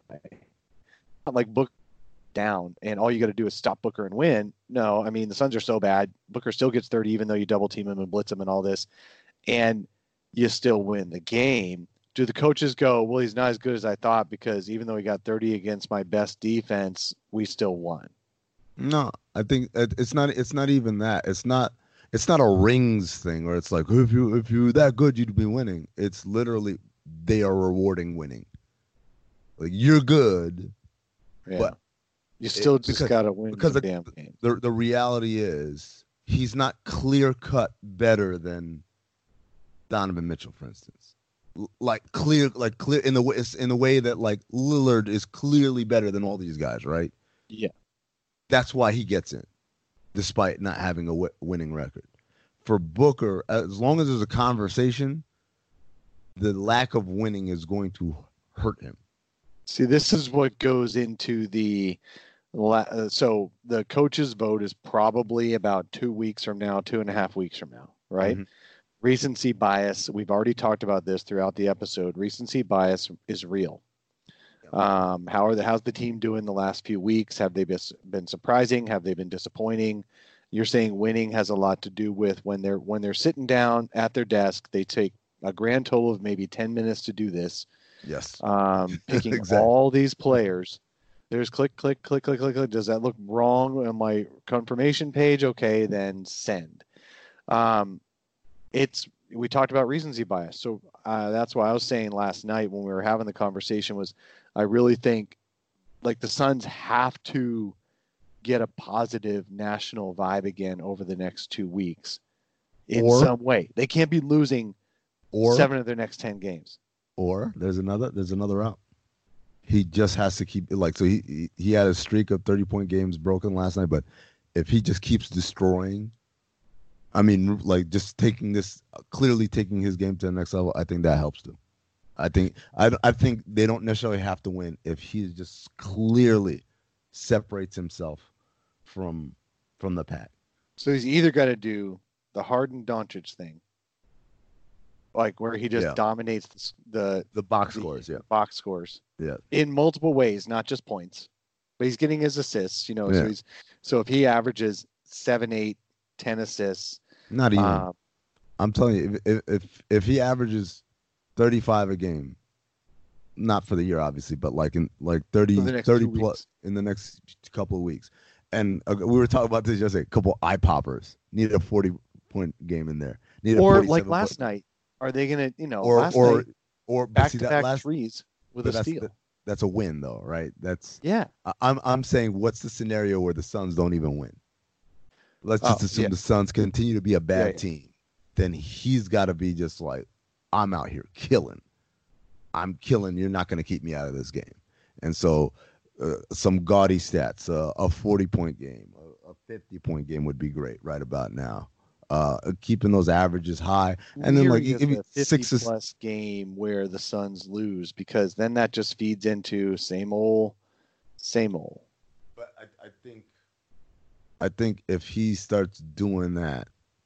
Not like Booker down and all you got to do is stop Booker and win. No, I mean the Suns are so bad. Booker still gets thirty even though you double team him and blitz him and all this, and you still win the game. Do the coaches go, well, he's not as good as I thought because even though he got thirty against my best defense, we still won? No, I think it- it's not. It's not even that. It's not. It's not a rings thing where it's like if you if you're that good, you'd be winning. It's literally they are rewarding winning. Like you're good. Yeah. But you still it- just because- got to win because the the- damn game. The the reality is he's not clear cut better than Donovan Mitchell, for instance. L- Like clear, like clear in the way in the way that like Lillard is clearly better than all these guys, right? Yeah. That's why he gets in, despite not having a w- winning record. For Booker, as long as there's a conversation, the lack of winning is going to hurt him. See, this is what goes into the la- uh, so the coach's vote is probably about two weeks from now, two and a half weeks from now, right? Mhm. Recency bias. We've already talked about this throughout the episode. Recency bias is real. Um, how are the how's the team doing the last few weeks? Have they been, been surprising? Have they been disappointing? You're saying winning has a lot to do with when they're when they're sitting down at their desk, they take a grand total of maybe ten minutes to do this. Yes. Um, picking Exactly. all these players. There's click, click, click, click, click, click. Does that look wrong on my confirmation page? Okay, then send. Um, it's we talked about recency bias, so uh, that's why I was saying last night when we were having the conversation was I really think like the Suns have to get a positive national vibe again over the next two weeks in Or- some way. They can't be losing Or seven of their next ten games. or there's another there's another route. He just has to keep like so he he, he had a streak of thirty point games broken last night, but if he just keeps destroying, I mean, like just taking this clearly taking his game to the next level, I think that helps them. I think I I think they don't necessarily have to win if he just clearly separates himself from from the pack. So he's either got to do the Harden Doncic thing, like where he just Yeah. dominates the, the The box the scores, yeah. box scores Yeah. in multiple ways, not just points, but he's getting his assists. You know, Yeah. so he's so if he averages seven, eight, ten assists, Not even. uh, I'm telling you, if if if he averages thirty-five a game, not for the year obviously, but like in like thirty, For the next thirty two plus weeks. in the next couple of weeks, and uh, we were talking about this yesterday. A couple eye poppers needed a forty point game in there. Needed a or like forty-seven last point- night, are they gonna, you know, or last or night or but back see to that back last threes with but a that's steal? the- that's a win though, right? That's Yeah, I- I'm I'm saying what's the scenario where the Suns don't even win? Let's just Oh, assume yeah. the Suns continue to be a bad Yeah, yeah. team. Then he's got to be just like, I'm out here killing. I'm killing. You're not going to keep me out of this game. And so, uh, some gaudy stats: uh, a forty point game, a, a fifty point game would be great right about now. Uh, keeping those averages high, and then like Weird is if you- a fifty six is- plus game where the Suns lose, because then that just feeds into same old, same old. But I, I think, I think if he starts doing that,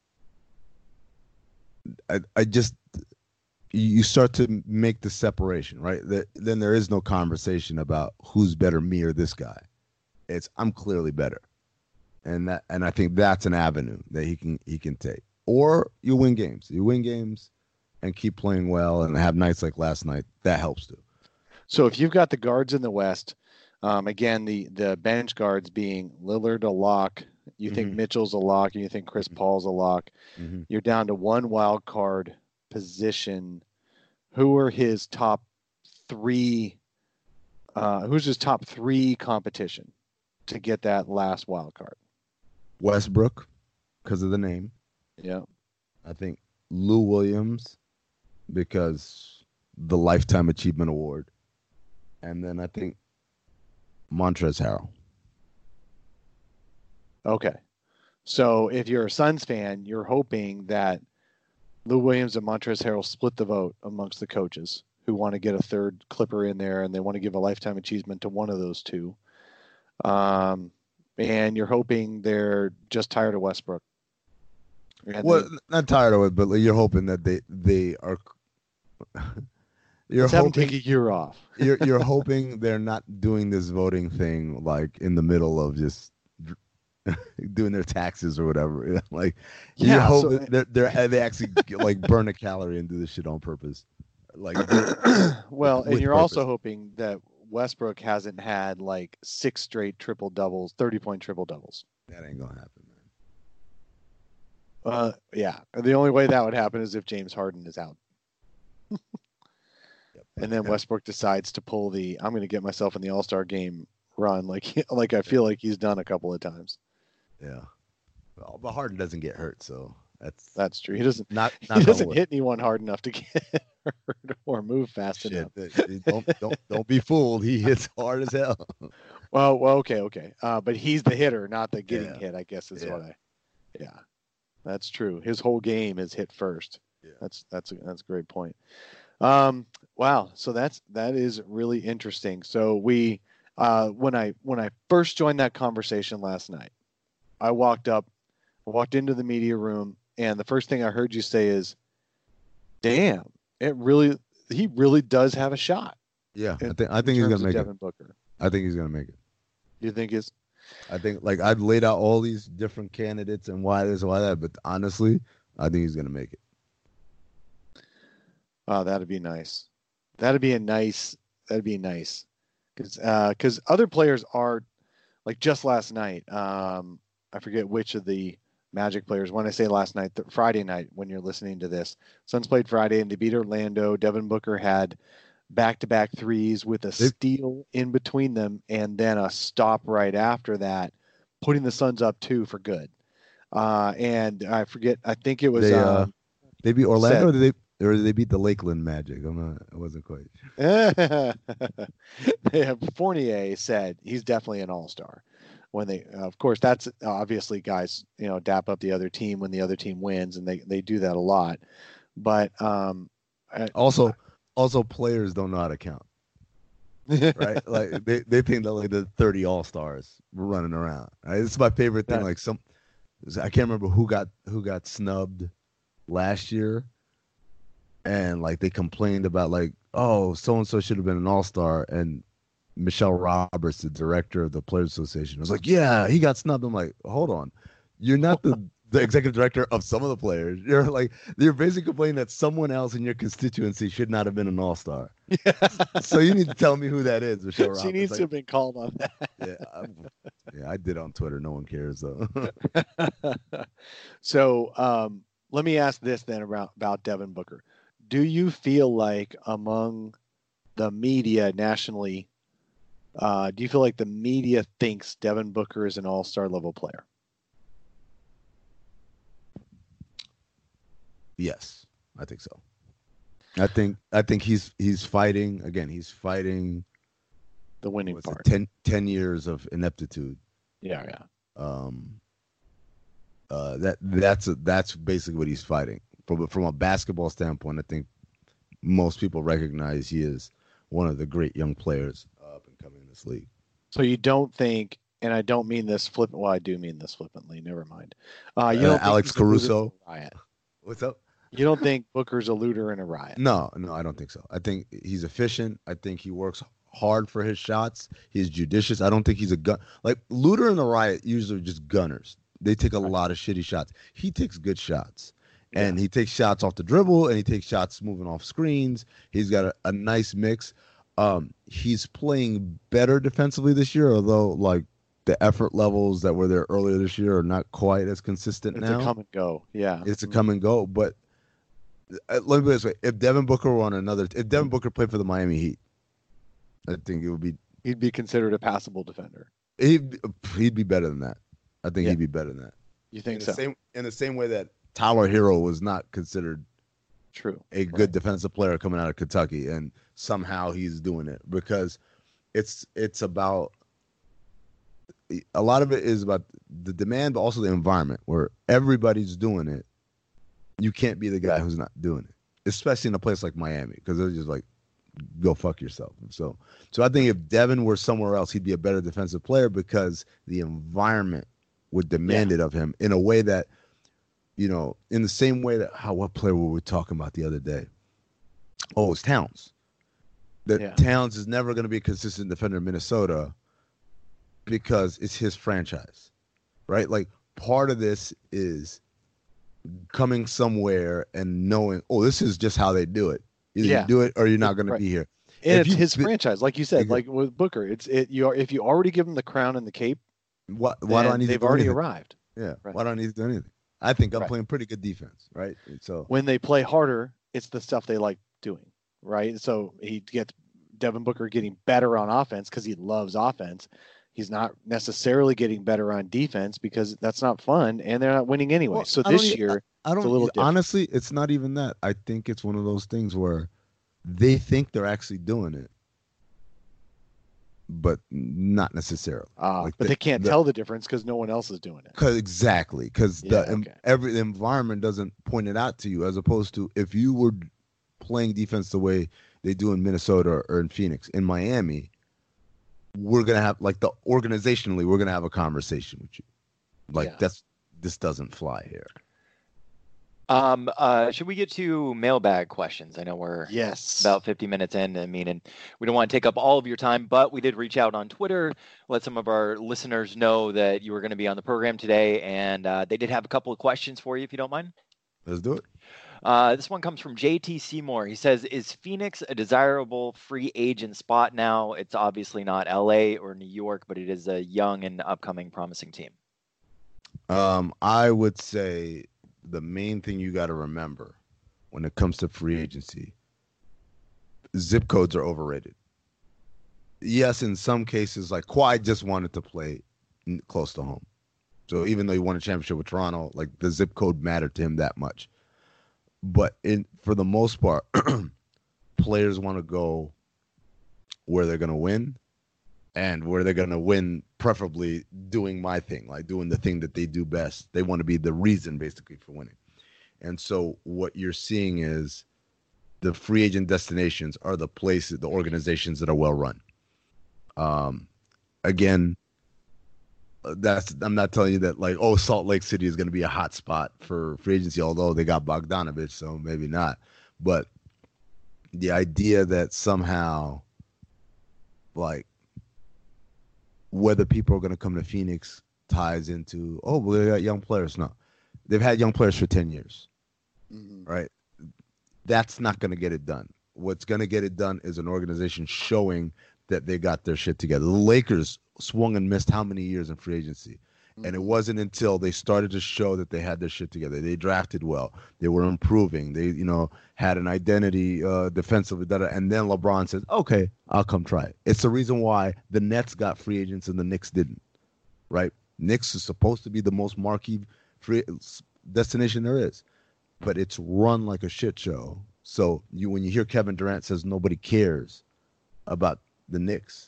I, I just you start to make the separation, right? That then there is no conversation about who's better, me or this guy. It's I'm clearly better, and that and I think that's an avenue that he can he can take. Or you win games, you win games, and keep playing well, and have nights like last night. That helps too. So if you've got the guards in the West, um, again, the, the bench guards being Lillard a lock, you think Mhm. Mitchell's a lock, and you think Chris Paul's a lock, Mm-hmm. you're down to one wild card position. Who are his top three? Uh, who's his top three competition to get that last wild card? Westbrook, because of the name. Yeah. I think Lou Williams because the Lifetime Achievement Award. And then I think Montrezl Harrell. Okay. So if you're a Suns fan, you're hoping that Lou Williams and Montrezl Harrell split the vote amongst the coaches who want to get a third Clipper in there, and they want to give a lifetime achievement to one of those two. Um, and you're hoping they're just tired of Westbrook. And Well, they- not tired of it, but like you're hoping that they they are. You're let's have them hoping take a year off. you're you're hoping they're not doing this voting thing like in the middle of just doing their taxes or whatever. Like you Yeah, hope so- that they're, they're they actually like burn a calorie and do this shit on purpose. Like Well, and with you're also purpose. hoping that Westbrook hasn't had like six straight triple doubles, thirty point triple doubles. that ain't gonna happen, man. Uh, yeah. The only way that would happen is if James Harden is out. Yep. And then Yeah. Westbrook decides to pull the I'm going to get myself in the All-Star game run like like I feel like he's done a couple of times. Yeah. Well, but Harden doesn't get hurt, so that's That's true. He doesn't not he not doesn't hit anyone hard enough to get hurt or move fast Shit, enough. that- that- don't don't don't be fooled. He hits hard as hell. Well, well, okay, okay. Uh, but he's the hitter, not the getting Yeah. hit, I guess is Yeah. what I Yeah. That's true. His whole game is hit first. Yeah. That's that's a, that's a great point. Um, wow. So that's that is really interesting. So we uh, when I when I first joined that conversation last night, I walked up, walked into the media room, and the first thing I heard you say is, "Damn, it really he really does have a shot." Yeah, I in- think I in think he's terms gonna of make Devin it. Booker. I think he's gonna make it. Do you think is I think like I've laid out all these different candidates and why this, why that, but honestly, I think he's gonna make it. Oh, that'd be nice. That'd be a nice. That'd be nice, because because other players are like just last night. Um, I forget which of the Magic players. When I say last night, the Friday night when you're listening to this, Suns played Friday and they beat Orlando. Devin Booker had back-to-back threes with a They- steal in between them and then a stop right after that, putting the Suns up two for good. Uh, and I forget. I think it was. They, uh, um, They beat Orlando, Said- or did they, or did they beat the Lakeland Magic? I'm not. I wasn't quite. they have, Fournier said he's definitely an all-star. When they, uh, of course, that's obviously guys, you know, dap up the other team when the other team wins, and they, they do that a lot. But um, I- Also, also players don't know how to count, right? Like they, they think that like the thirty all stars running around. Right? This is my favorite thing. Yeah. Like some, I can't remember who got who got snubbed last year, and like they complained about like, oh, so and so should have been an all star, and Michelle Roberts, the director of the Players Association, was like, yeah, he got snubbed. I'm like, hold on, you're not the the executive director of some of the players. You're like, you're basically complaining that someone else in your constituency should not have been an all star. So you need to tell me who that is, Michelle Roberts. she needs Like, to have been called on that. yeah, I, yeah, I did on Twitter. No one cares though. So um, let me ask this then about, about Devin Booker. Do you feel like among the media nationally, uh, do you feel like the media thinks Devin Booker is an all-star level player? Yes, I think so. I think I think he's he's fighting again. He's fighting The winning what's it, part. ten, ten years of ineptitude. Yeah, yeah. Um, uh, that that's a, that's basically what he's fighting. From from a basketball standpoint, I think most people recognize he is one of the great young players up and coming in this league. So you don't think, and I don't mean this flippant. Well, I do mean this flippantly. Never mind. Uh, you Uh, don't think Alex he's a looter Caruso? and a riot. What's up? You don't think Booker's a looter and a riot? No, no, I don't think so. I think he's efficient. I think he works hard for his shots. He's judicious. I don't think he's a gun. Like Looter and the Riot usually are just gunners. They take a Right. lot of shitty shots. He takes good shots. And he takes shots off the dribble, and he takes shots moving off screens. He's got a, a nice mix. Um, he's playing better defensively this year, although like the effort levels that were there earlier this year are not quite as consistent It's now. a come and go. Yeah. It's a come and go. But uh, let me put it this way: if Devin Booker were on another, if Devin Booker played for the Miami Heat, I think it would be He'd be considered a passable defender. he'd he'd be better than that. I think Yeah. he'd be better than that. You In think the so? same in the same way that Tyler Hero was not considered True. a good defensive player coming out of Kentucky, and somehow he's doing it because it's it's about a lot of it is about the demand, but also the environment where everybody's doing it. You can't be the guy who's not doing it, especially in a place like Miami, because they're just like, go fuck yourself. So, so I think if Devin were somewhere else, he'd be a better defensive player because the environment would demand it of him in a way that, you know, in the same way that how what player were we talking about the other day? Oh, it's Towns. That Yeah. Towns is never going to be a consistent defender in Minnesota because it's his franchise, right? Like part of this is coming somewhere and knowing, oh, this is just how they do it. Either Yeah. you do it or you're not going Right. to be here. And If it's you- his franchise, like you said, Exactly. like with Booker. It's it. You are if you already give him the crown and the cape, Why, why do I then need they've to do already anything? arrived. Yeah. Right. Why do I need to do anything? I think I'm Right. playing pretty good defense, right? And so When they play harder, it's the stuff they like doing, right? So he gets Devin Booker getting better on offense because he loves offense. He's not necessarily getting better on defense because that's not fun, and they're not winning anyway. Well, so I don't this e- year, I don't a little different. honestly, it's not even that. I think it's one of those things where they think they're actually doing it, but not necessarily. uh, like but the- they can't the- tell the difference because no one else is doing it. Cause exactly, because Yeah, the em- okay. every the environment doesn't point it out to you, as opposed to if you were playing defense the way they do in Minnesota or in Phoenix, in Miami, we're gonna have like the organizationally, we're gonna have a conversation with you. Like Yeah. that's this doesn't fly here. Um, uh, should we get to mailbag questions? I know we're Yes. about fifty minutes in. I mean, and we don't want to take up all of your time, but we did reach out on Twitter, let some of our listeners know that you were going to be on the program today, and uh, they did have a couple of questions for you, if you don't mind. Let's do it. Uh, this one comes from J T Seymour. He says, is Phoenix a desirable free agent spot now? It's obviously not L A or New York, but it is a young and upcoming promising team. Um, I would say the main thing you got to remember when it comes to free agency, zip codes are overrated. Yes, in some cases, like Kawhi just wanted to play n- close to home. So even though he won a championship with Toronto, like the zip code mattered to him that much. But in for the most part, players want to go where they're going to win and where they're going to win, preferably doing my thing, like doing the thing that they do best. They want to be the reason basically for winning. And so what you're seeing is the free agent destinations are the places, the organizations that are well run. Um, again, that's I'm not telling you that like, oh, Salt Lake City is going to be a hot spot for free agency, although they got Bogdanovich, so maybe not. But the idea that somehow, like, whether people are going to come to Phoenix ties into, oh, well, they got young players. No, they've had young players for ten years, mm-hmm. right? That's not going to get it done. What's going to get it done is an organization showing that they got their shit together. The Lakers swung and missed how many years in free agency? Mm-hmm. And it wasn't until they started to show that they had their shit together. They drafted well. They were improving. They, you know, had an identity uh, defensively. Da, da, and then LeBron says, okay, I'll come try it. It's the reason why the Nets got free agents and the Knicks didn't, right? Knicks is supposed to be the most marquee free destination there is, but it's run like a shit show. So you, when you hear Kevin Durant says nobody cares about the Knicks,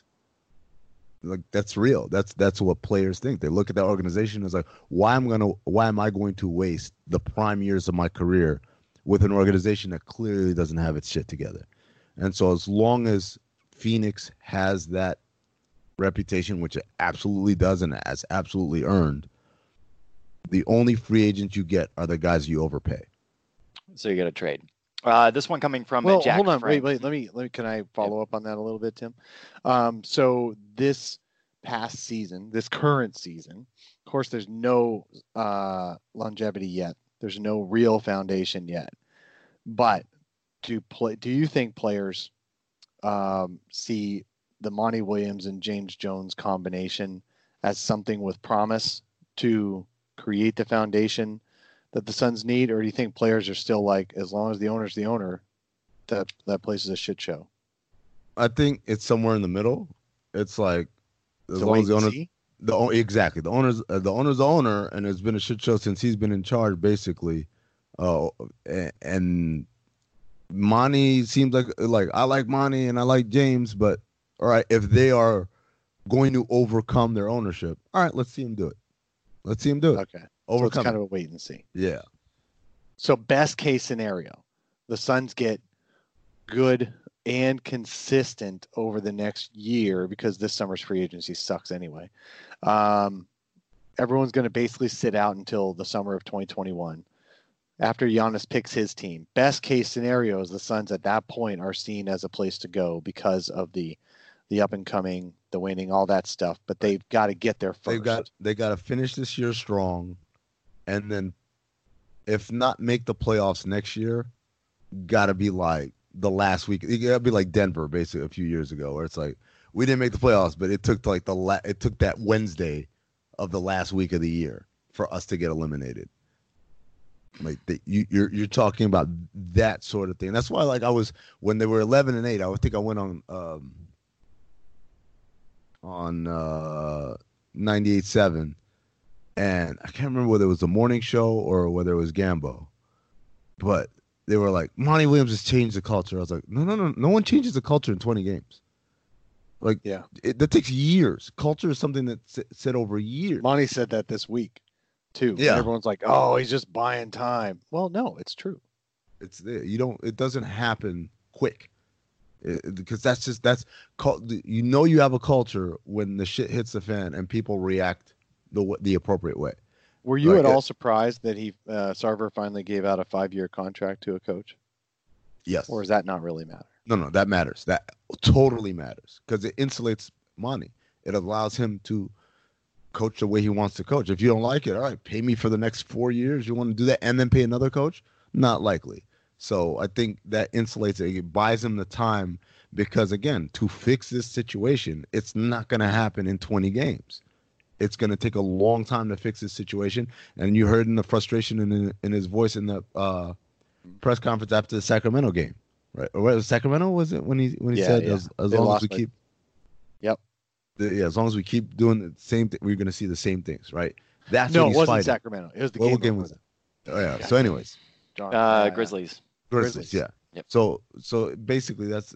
like that's real. That's that's what players think. They look at that organization as like, why am I gonna why am I going to waste the prime years of my career with an organization that clearly doesn't have its shit together? And so as long as Phoenix has that reputation, which it absolutely does and has absolutely earned, the only free agents you get are the guys you overpay. So you got to trade. Uh, this one coming from well, Jack hold on, Frank. wait, wait. Let me, let me. Can I follow up on that a little bit, Tim? Um, so this past season, this current season, of course, there's no uh, longevity yet. There's no real foundation yet. But do play? Do you think players um, see the Monty Williams and James Jones combination as something with promise to create the foundation that the Suns need, or do you think players are still like, as long as the owner's the owner, that that place is a shit show? I think it's somewhere in the middle. It's like as So long wait as the and owner, see? the exactly the owner's uh, the owner's the owner, and it's been a shit show since he's been in charge, basically. Uh, and Monty seems like like I like Monty and I like James, but all right, if they are going to overcome their ownership, all right, let's see him do it. Let's see him do it. Okay. Overcome. So it's kind of a wait and see. Yeah. So best case scenario, the Suns get good and consistent over the next year, because this summer's free agency sucks anyway. Um, everyone's going to basically sit out until the summer of twenty twenty-one. After Giannis picks his team, best case scenario is the Suns at that point are seen as a place to go because of the the up and coming, the winning, all that stuff. But they've got to get there first. They've got they got to finish this year strong, and then if not make the playoffs next year, got to be like the last week. It got to be like Denver, basically a few years ago, where it's like we didn't make the playoffs, but it took like the la- it took that Wednesday of the last week of the year for us to get eliminated. Like the, you, you're you're talking about that sort of thing. That's why, like I was when they were eleven and eight, I would think I went on um, on uh, ninety-eight seven, and I can't remember whether it was the morning show or whether it was Gambo, but they were like, Monty Williams has changed the culture. I was like, no, no, no, no one changes the culture in twenty games. Like, yeah, it, that takes years. Culture is something that's said over years. Monty said that this week too. Yeah, and everyone's like, oh, he's just buying time. Well, no, it's true. It's there. You don't. It doesn't happen quick, it, because that's just that's you know you have a culture when the shit hits the fan and people react the the appropriate way, Were you Like, at uh, all surprised that he uh, Sarver finally gave out a five-year contract to a coach, Yes. or does that not really matter? No, no, that matters. That totally matters because it insulates Monty. It allows him to coach the way he wants to coach. If you don't like it, all right, pay me for the next four years. You want to do that and then pay another coach? Not likely. So I think that insulates it. It buys him the time because, again, to fix this situation, it's not going to happen in twenty games. It's going to take a long time to fix this situation. And you heard in the frustration in, in his voice in the uh, press conference after the Sacramento game. Right, or was it Sacramento? Was it when he when he Yeah, said yeah. as, as They long as lost we by- keep, Yep. the, yeah, as long as we keep doing the same thing, we're going to see the same things, right? That's No, what it he's wasn't fighting. Sacramento. It was the What game. game before was that. Oh yeah. So, anyways, Darn. Uh, Yeah, yeah. Grizzlies. Grizzlies, Grizzlies. yeah. Yep. So so basically, that's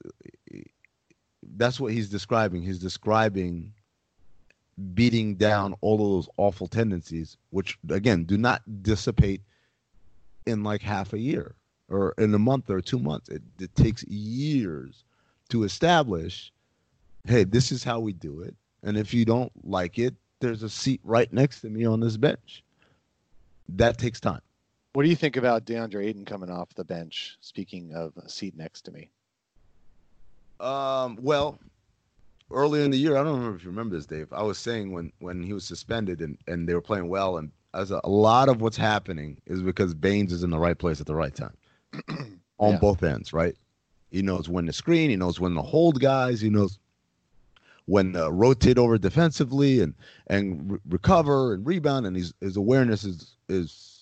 that's what he's describing. He's describing beating down all of those awful tendencies, which again do not dissipate in like half a year or in a month or two months. It, it takes years to establish, hey, this is how we do it. And if you don't like it, there's a seat right next to me on this bench. That takes time. What do you think about DeAndre Ayton coming off the bench? Speaking of a seat next to me. Um, well, earlier in the year, I don't remember if you remember this, Dave. I was saying when, when he was suspended and, and they were playing well, and as a, a lot of what's happening is because Baines is in the right place at the right time on Yeah. both ends, right? He knows when to screen, he knows when to hold guys, he knows when to rotate over defensively and and re- recover and rebound, and his his awareness is is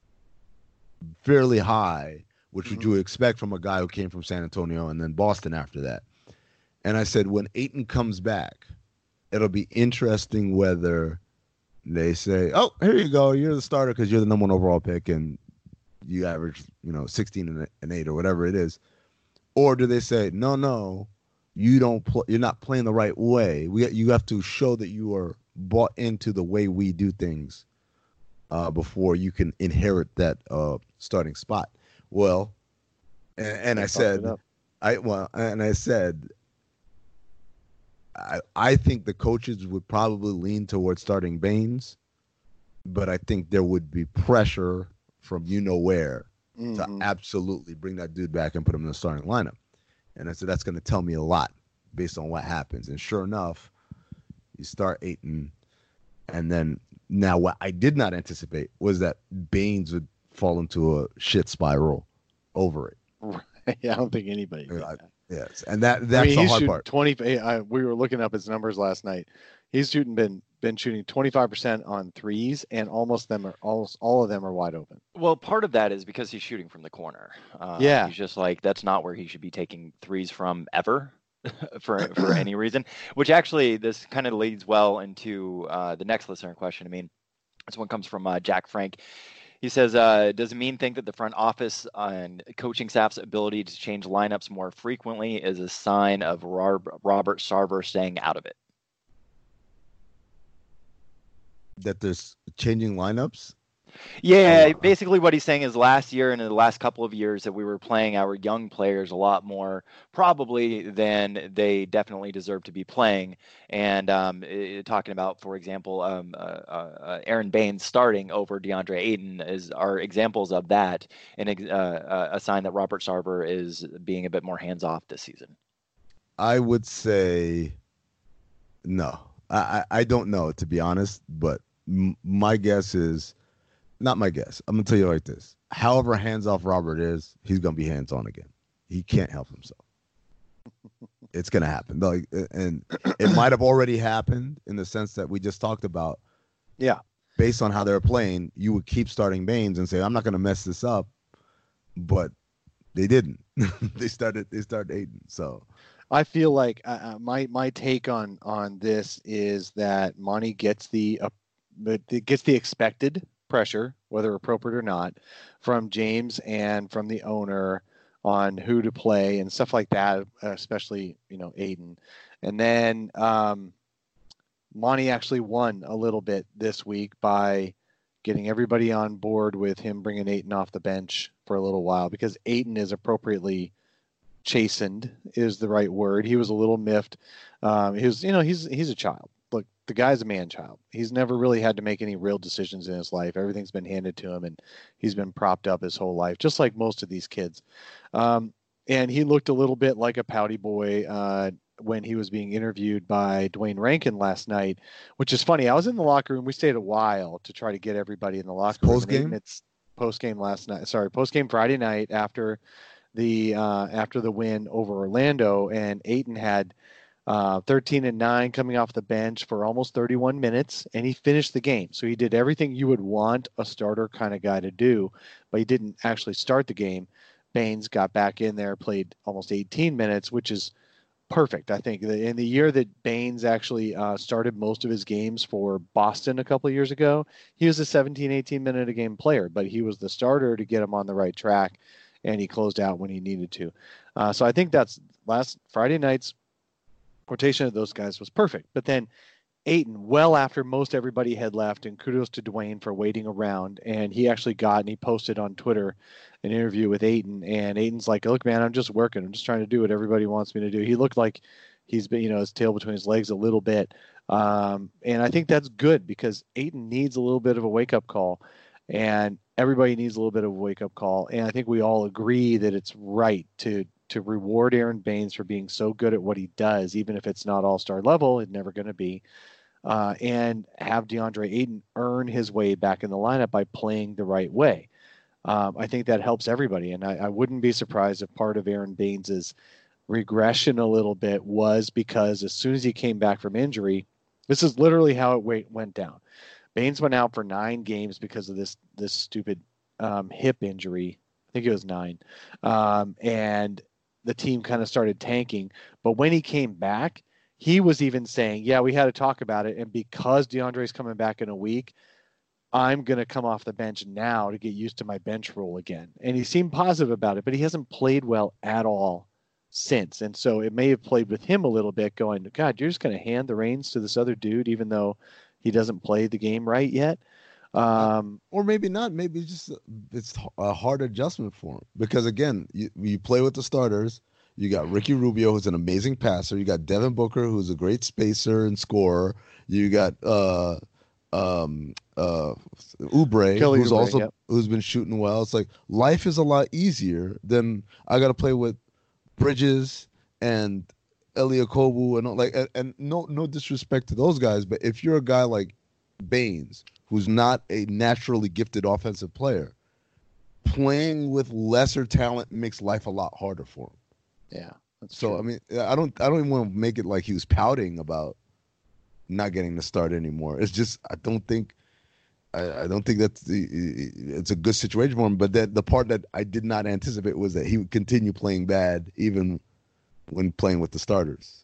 fairly high, which would you expect from a guy who came from San Antonio and then Boston after that. And I said, when Ayton comes back, it'll be interesting whether they say, oh, here you go, you're the starter because you're the number one overall pick and you average, you know, sixteen and and eight or whatever it is. Or do they say, no, no, you don't pl- you're not playing the right way. We you have to show that you are bought into the way we do things uh, before you can inherit that uh, starting spot. Well, and, and They I fucked said, it up. I well, and I said, I I think the coaches would probably lean towards starting Baines, but I think there would be pressure from you know where to Mhm. absolutely bring that dude back and put him in the starting lineup. And I said, that's going to tell me a lot based on what happens. And sure enough, you start Ayton. And then now what I did not anticipate was that Baines would fall into a shit spiral over it. Yeah, I don't think anybody did Yeah, that. Yes. And that I that's mean, the he's hard shooting part. twenty. I, we were looking up his numbers last night. He's shooting been been shooting twenty-five percent on threes, and almost them are almost all of them are wide open. Well, part of that is because he's shooting from the corner. Uh, Yeah. He's just like, that's not where he should be taking threes from ever for for any reason, which actually this kind of leads well into uh, the next listener question. I mean, this one comes from uh, Jack Frank. He says, uh, does Amin think that the front office and coaching staff's ability to change lineups more frequently is a sign of Rob- Robert Sarver staying out of it? That there's changing lineups. Yeah, Oh, wow. basically what he's saying is last year and in the last couple of years that we were playing our young players a lot more probably than they definitely deserve to be playing. And um, eh, talking about, for example, um, uh, uh, Aaron Baines starting over DeAndre Ayton is are examples of that, and ex- uh, a sign that Robert Sarver is being a bit more hands off this season. I would say no. I, I, I don't know, to be honest, but m- my guess is not my guess. I'm going to tell you like this. However hands off Robert is, he's going to be hands on again. He can't help himself. It's going to happen. Like, and it might have already happened in the sense that we just talked about. Yeah. Based on how they're playing, you would keep starting Baines and say, I'm not going to mess this up. But they didn't. they started they started Ayton. So I feel like uh, uh, my my take on on this is that Monty gets the uh, it gets the expected pressure, whether appropriate or not, from James and from the owner on who to play and stuff like that, especially, you know, Ayton. And then um, Monty actually won a little bit this week by getting everybody on board with him bringing Ayton off the bench for a little while, because Ayton is appropriately chastened is the right word. He was a little miffed. Um, he was, you know, he's he's a child. Look, the guy's a man-child. He's never really had to make any real decisions in his life. Everything's been handed to him, and he's been propped up his whole life, just like most of these kids. Um, and he looked a little bit like a pouty boy uh, when he was being interviewed by Dwayne Rankin last night, which is funny. I was in the locker room. We stayed a while to try to get everybody in the locker room. Post-game? It's post-game last night. Sorry, post-game Friday night after the uh, after the win over Orlando, and Ayton had uh, thirteen and nine coming off the bench for almost thirty-one minutes, and he finished the game. So he did everything you would want a starter kind of guy to do, but he didn't actually start the game. Baines got back in there, played almost eighteen minutes, which is perfect. I think in the year that Baines actually uh, started most of his games for Boston a couple of years ago, he was a seventeen, eighteen minute a game player, but he was the starter to get him on the right track, and he closed out when he needed to. Uh, so I think that's last Friday night's rotation of those guys was perfect. But then Ayton, well after most everybody had left, and kudos to Dwayne for waiting around, and he actually got, and he posted on Twitter an interview with Ayton, and Ayton's like, look, man, I'm just working. I'm just trying to do what everybody wants me to do. He looked like he's been, you know, his tail between his legs a little bit. Um, and I think that's good because Ayton needs a little bit of a wake-up call, and everybody needs a little bit of a wake-up call. And I think we all agree that it's right to to reward Aaron Baines for being so good at what he does, even if it's not all-star level, it's never going to be, uh, and have DeAndre Ayton earn his way back in the lineup by playing the right way. Um, I think that helps everybody, and I, I wouldn't be surprised if part of Aaron Baines's regression a little bit was because as soon as he came back from injury, this is literally how it went down. Baines went out for nine games because of this this stupid um, hip injury. I think it was nine, um, and the team kind of started tanking. But when he came back, he was even saying, "Yeah, we had to talk about it, and because DeAndre's coming back in a week, I'm going to come off the bench now to get used to my bench role again." And he seemed positive about it, but he hasn't played well at all since. And so it may have played with him a little bit going, God, you're just going to hand the reins to this other dude, even though he doesn't play the game right yet. Um, or maybe not. Maybe just it's a hard adjustment for him because again, you, you play with the starters. You got Ricky Rubio, who's an amazing passer. You got Devin Booker, who's a great spacer and scorer. You got, uh, um uh Oubre, Kelly who's Oubre, also yep. who's been shooting well. It's like life is a lot easier than I got to play with Bridges and Eliakobu and all, like and, and no no disrespect to those guys, but if you're a guy like Baines who's not a naturally gifted offensive player, playing with lesser talent makes life a lot harder for him. Yeah, that's so true. I mean, I don't I don't even want to make it like he was pouting about not getting the start anymore. It's just I don't think I, I don't think that's the it's a good situation for him. But that the part that I did not anticipate was that he would continue playing bad even when playing with the starters.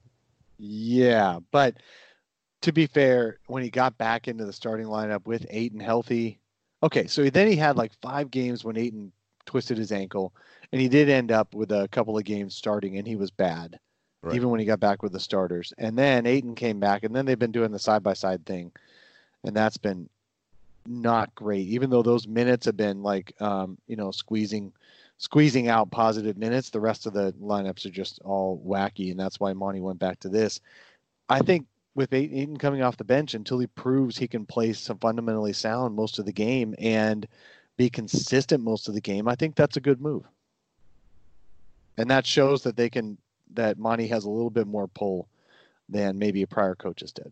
Yeah, but to be fair, when he got back into the starting lineup with Ayton healthy, okay, so then he had like five games when Ayton twisted his ankle, and he did end up with a couple of games starting, and he was bad. Right. Even when he got back with the starters. And then Ayton came back, and then they've been doing the side-by-side thing, and that's been not great, even though those minutes have been like, um, you know, squeezing squeezing out positive minutes. The rest of the lineups are just all wacky, and that's why Monty went back to this. I think with Ayton coming off the bench until he proves he can play some fundamentally sound most of the game and be consistent most of the game, I think that's a good move. And that shows that they can that Monty has a little bit more pull than maybe prior coaches did.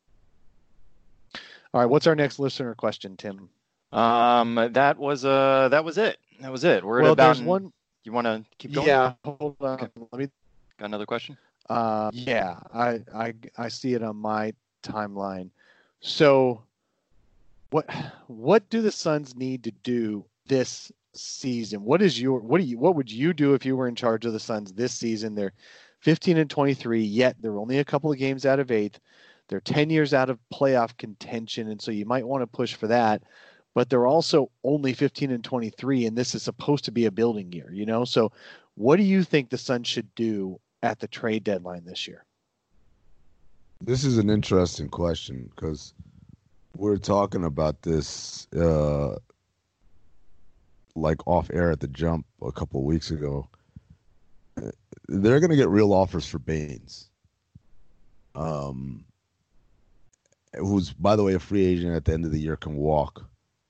All right, what's our next listener question, Tim? Um, that was uh, that was it. That was it. We're well, at about. There's one. You want to keep going? Yeah. Hold on. Okay. Let me. Got another question? Uh, yeah, I, I I see it on my timeline. So, what what do the Suns need to do this season? What is your what do you what would you do if you were in charge of the Suns this season? They're fifteen and twenty-three, yet they're only a couple of games out of eighth. They're ten years out of playoff contention, and so you might want to push for that. But they're also only fifteen and twenty-three, and this is supposed to be a building year, you know? So what do you think the Suns should do at the trade deadline this year? This is an interesting question because we're talking about this uh, like off air at the Jump a couple of weeks ago. They're going to get real offers for Baines. Um, who's by the way a free agent at the end of the year, can walk,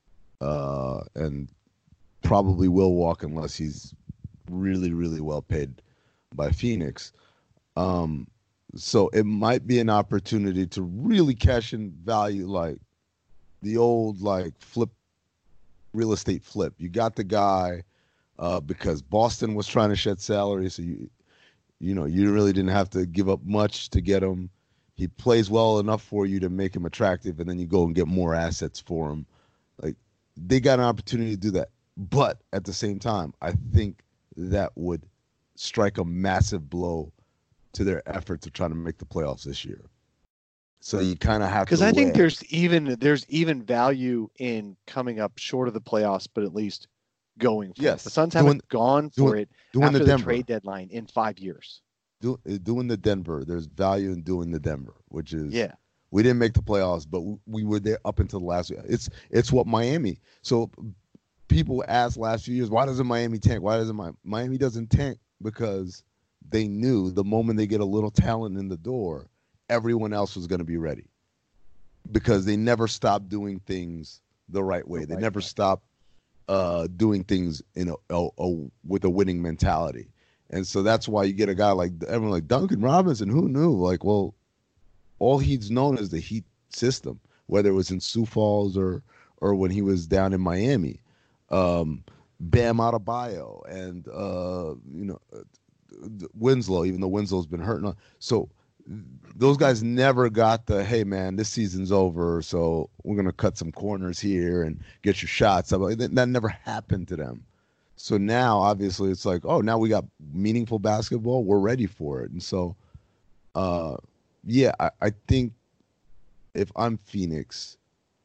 uh, and probably will walk unless he's really really well paid by Phoenix. Um, so it might be an opportunity to really cash in value, like the old like flip real estate flip. You got the guy uh, because Boston was trying to shed salary, so you you know you really didn't have to give up much to get him. He plays well enough for you to make him attractive, and then you go and get more assets for him. Like they got an opportunity to do that, but at the same time, I think that would strike a massive blow to their efforts of trying to make the playoffs this year. So you kind of have to, because I think weigh. there's even there's even value in coming up short of the playoffs, but at least going for Yes. it. The Suns Doing- haven't gone for doing- it doing after the the, Denver. trade deadline in five years. Do, doing the Denver. There's value in doing the Denver, which is Yeah. we didn't make the playoffs, but we, we were there up until the last week. It's it's what Miami. So people asked last few years, why doesn't Miami tank? Why doesn't Mi- Miami doesn't tank? Because they knew the moment they get a little talent in the door, everyone else was going to be ready. Because they never stopped doing things the right way. The They right never way. stopped uh, doing things in a, a, a with a winning mentality. And so that's why you get a guy like everyone like Duncan Robinson. Who knew? Like, well, all he's known is the Heat system, whether it was in Sioux Falls or or when he was down in Miami. Um, Bam Adebayo and uh, you know Winslow, even though Winslow's been hurting. So those guys never got the, hey man, this season's over, so we're gonna cut some corners here and get your shots. That, that never happened to them. So now, obviously, it's like, oh, now we got meaningful basketball. We're ready for it. And so, uh, yeah, I, I think if I'm Phoenix,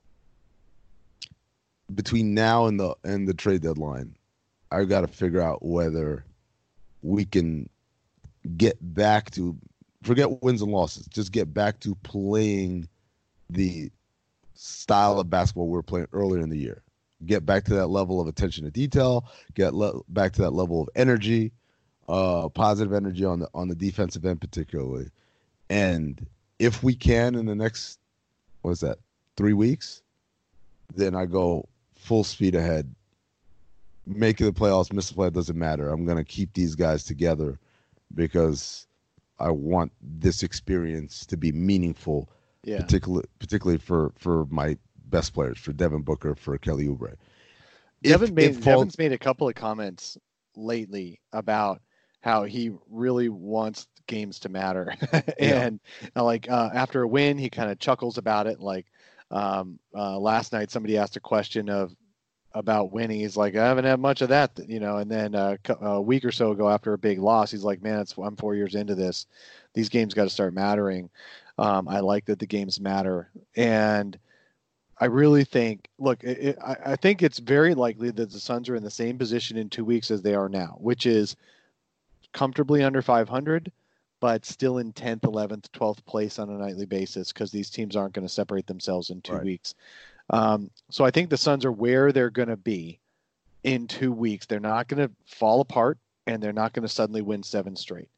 between now and the and the trade deadline, I got to figure out whether we can get back to, forget wins and losses, just get back to playing the style of basketball we were playing earlier in the year. Get back to that level of attention to detail. Get le- back to that level of energy, uh, positive energy on the on the defensive end particularly. And if we can in the next, what is that, three weeks, then I go full speed ahead. Making the playoffs, miss the play, doesn't matter. I'm gonna keep these guys together because I want this experience to be meaningful, Yeah. particularly particularly for for my best players, for Devin Booker, for Kelly Oubre. Devin If made, it falls- Devin's made a couple of comments lately about how he really wants games to matter. and uh, like uh, after a win, he kind of chuckles about it. Like um, uh, last night, somebody asked a question of about winning. He's like, I haven't had much of that, you know. And then uh, a week or so ago, after a big loss, he's like, man, it's, I'm four years into this. These games got to start mattering. Um, I like that the games matter. And I really think, look, it, it, I, I think it's very likely that the Suns are in the same position in two weeks as they are now, which is comfortably under five hundred, but still in tenth, eleventh, twelfth place on a nightly basis because these teams aren't going to separate themselves in two Right. weeks. Um, so I think the Suns are where they're going to be in two weeks. They're not going to fall apart, and they're not going to suddenly win seven straight.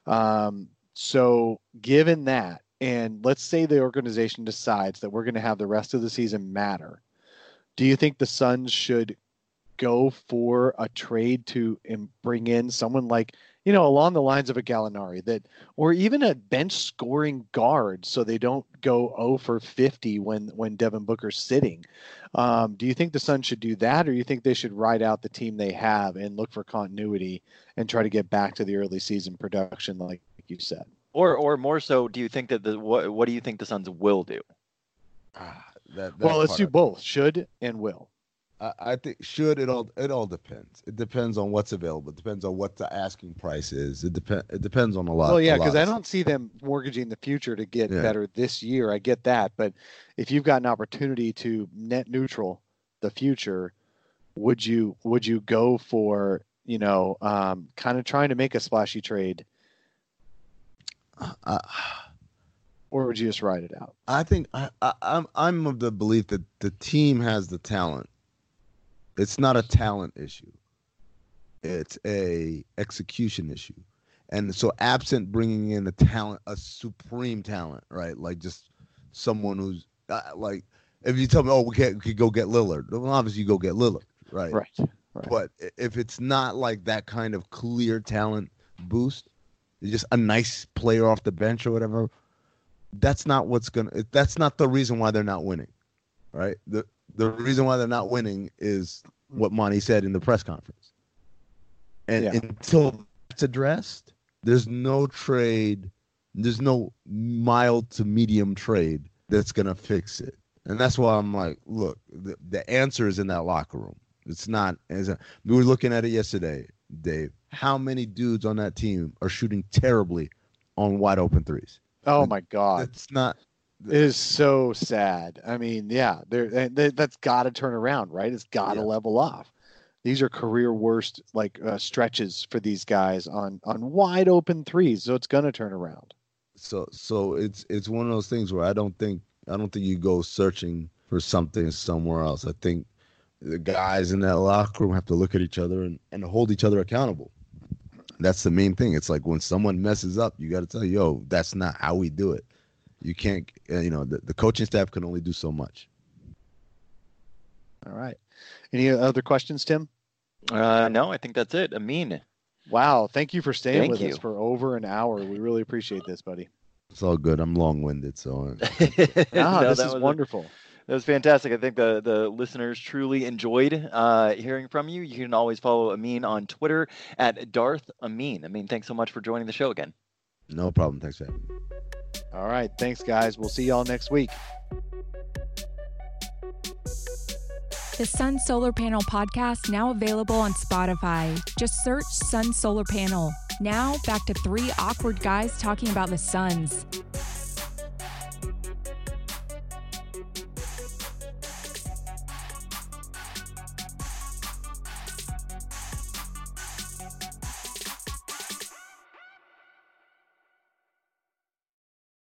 Um, so given that, and let's say the organization decides that we're going to have the rest of the season matter, do you think the Suns should go for a trade to um, bring in someone like, you know, along the lines of a Gallinari, that, or even a bench scoring guard, so they don't go zero for fifty when when Devin Booker's sitting? Um, do you think the Suns should do that, or do you think they should ride out the team they have and look for continuity and try to get back to the early season production, like you said? Or, or more so, do you think that the what? What do you think the Suns will do? Ah, that, that Well, let's part do I- both, should and will. I, I think should it all it all depends. It depends on what's available. It depends on what the asking price is. It depend it depends on a lot. Well, yeah, a lot because of I stuff. don't see them mortgaging the future to get Yeah. better this year. I get that, but if you've got an opportunity to net neutral the future, would you would you go for, you know, um, kind of trying to make a splashy trade, I, or would you just ride it out? I think I, I, I'm I'm of the belief that the team has the talent. It's not a talent issue. It's a execution issue. And so absent bringing in a talent, a supreme talent, right? Like just someone who's Uh, like, if you tell me, oh, we can't we could go get Lillard, well, obviously you go get Lillard, right? Right. Right. But if it's not like that kind of clear talent boost, it's just a nice player off the bench or whatever, that's not what's gonna. That's not the reason why they're not winning, right? the The reason why they're not winning is what Monty said in the press conference. And Yeah. until it's addressed, there's no trade, there's no mild to medium trade that's gonna fix it. And that's why I'm like, look, the, the answer is in that locker room. It's not as a, we were looking at it yesterday, Dave. How many dudes on that team are shooting terribly on wide open threes? Oh my God. It's not. It is so sad. I mean, yeah, there that's got to turn around, right? It's got to Yeah. level off. These are career worst like uh, stretches for these guys on on wide open threes, so it's gonna turn around. So so it's it's one of those things where I don't think I don't think you go searching for something somewhere else. I think the guys in that locker room have to look at each other and, and hold each other accountable. That's the main thing. It's like when someone messes up, you got to tell, yo, that's not how we do it. You can't, uh, you know, the, the coaching staff can only do so much. All right. Any other questions, Tim? Uh, no, I think that's it. Amin. Wow. Thank you for staying Thank with you. us for over an hour. We really appreciate this, buddy. It's all good. I'm long-winded, so uh, Ah, No, this that is was a- wonderful. That was fantastic. I think the, the listeners truly enjoyed uh, hearing from you. You can always follow Amin on Twitter at Darth Amin. Amin, thanks so much for joining the show again. no problem. Thanks for having me. All right. Thanks, guys. We'll see y'all next week. The Sun Solar Panel podcast now available on Spotify. Just search Sun Solar Panel. Now back to three awkward guys talking about the Suns.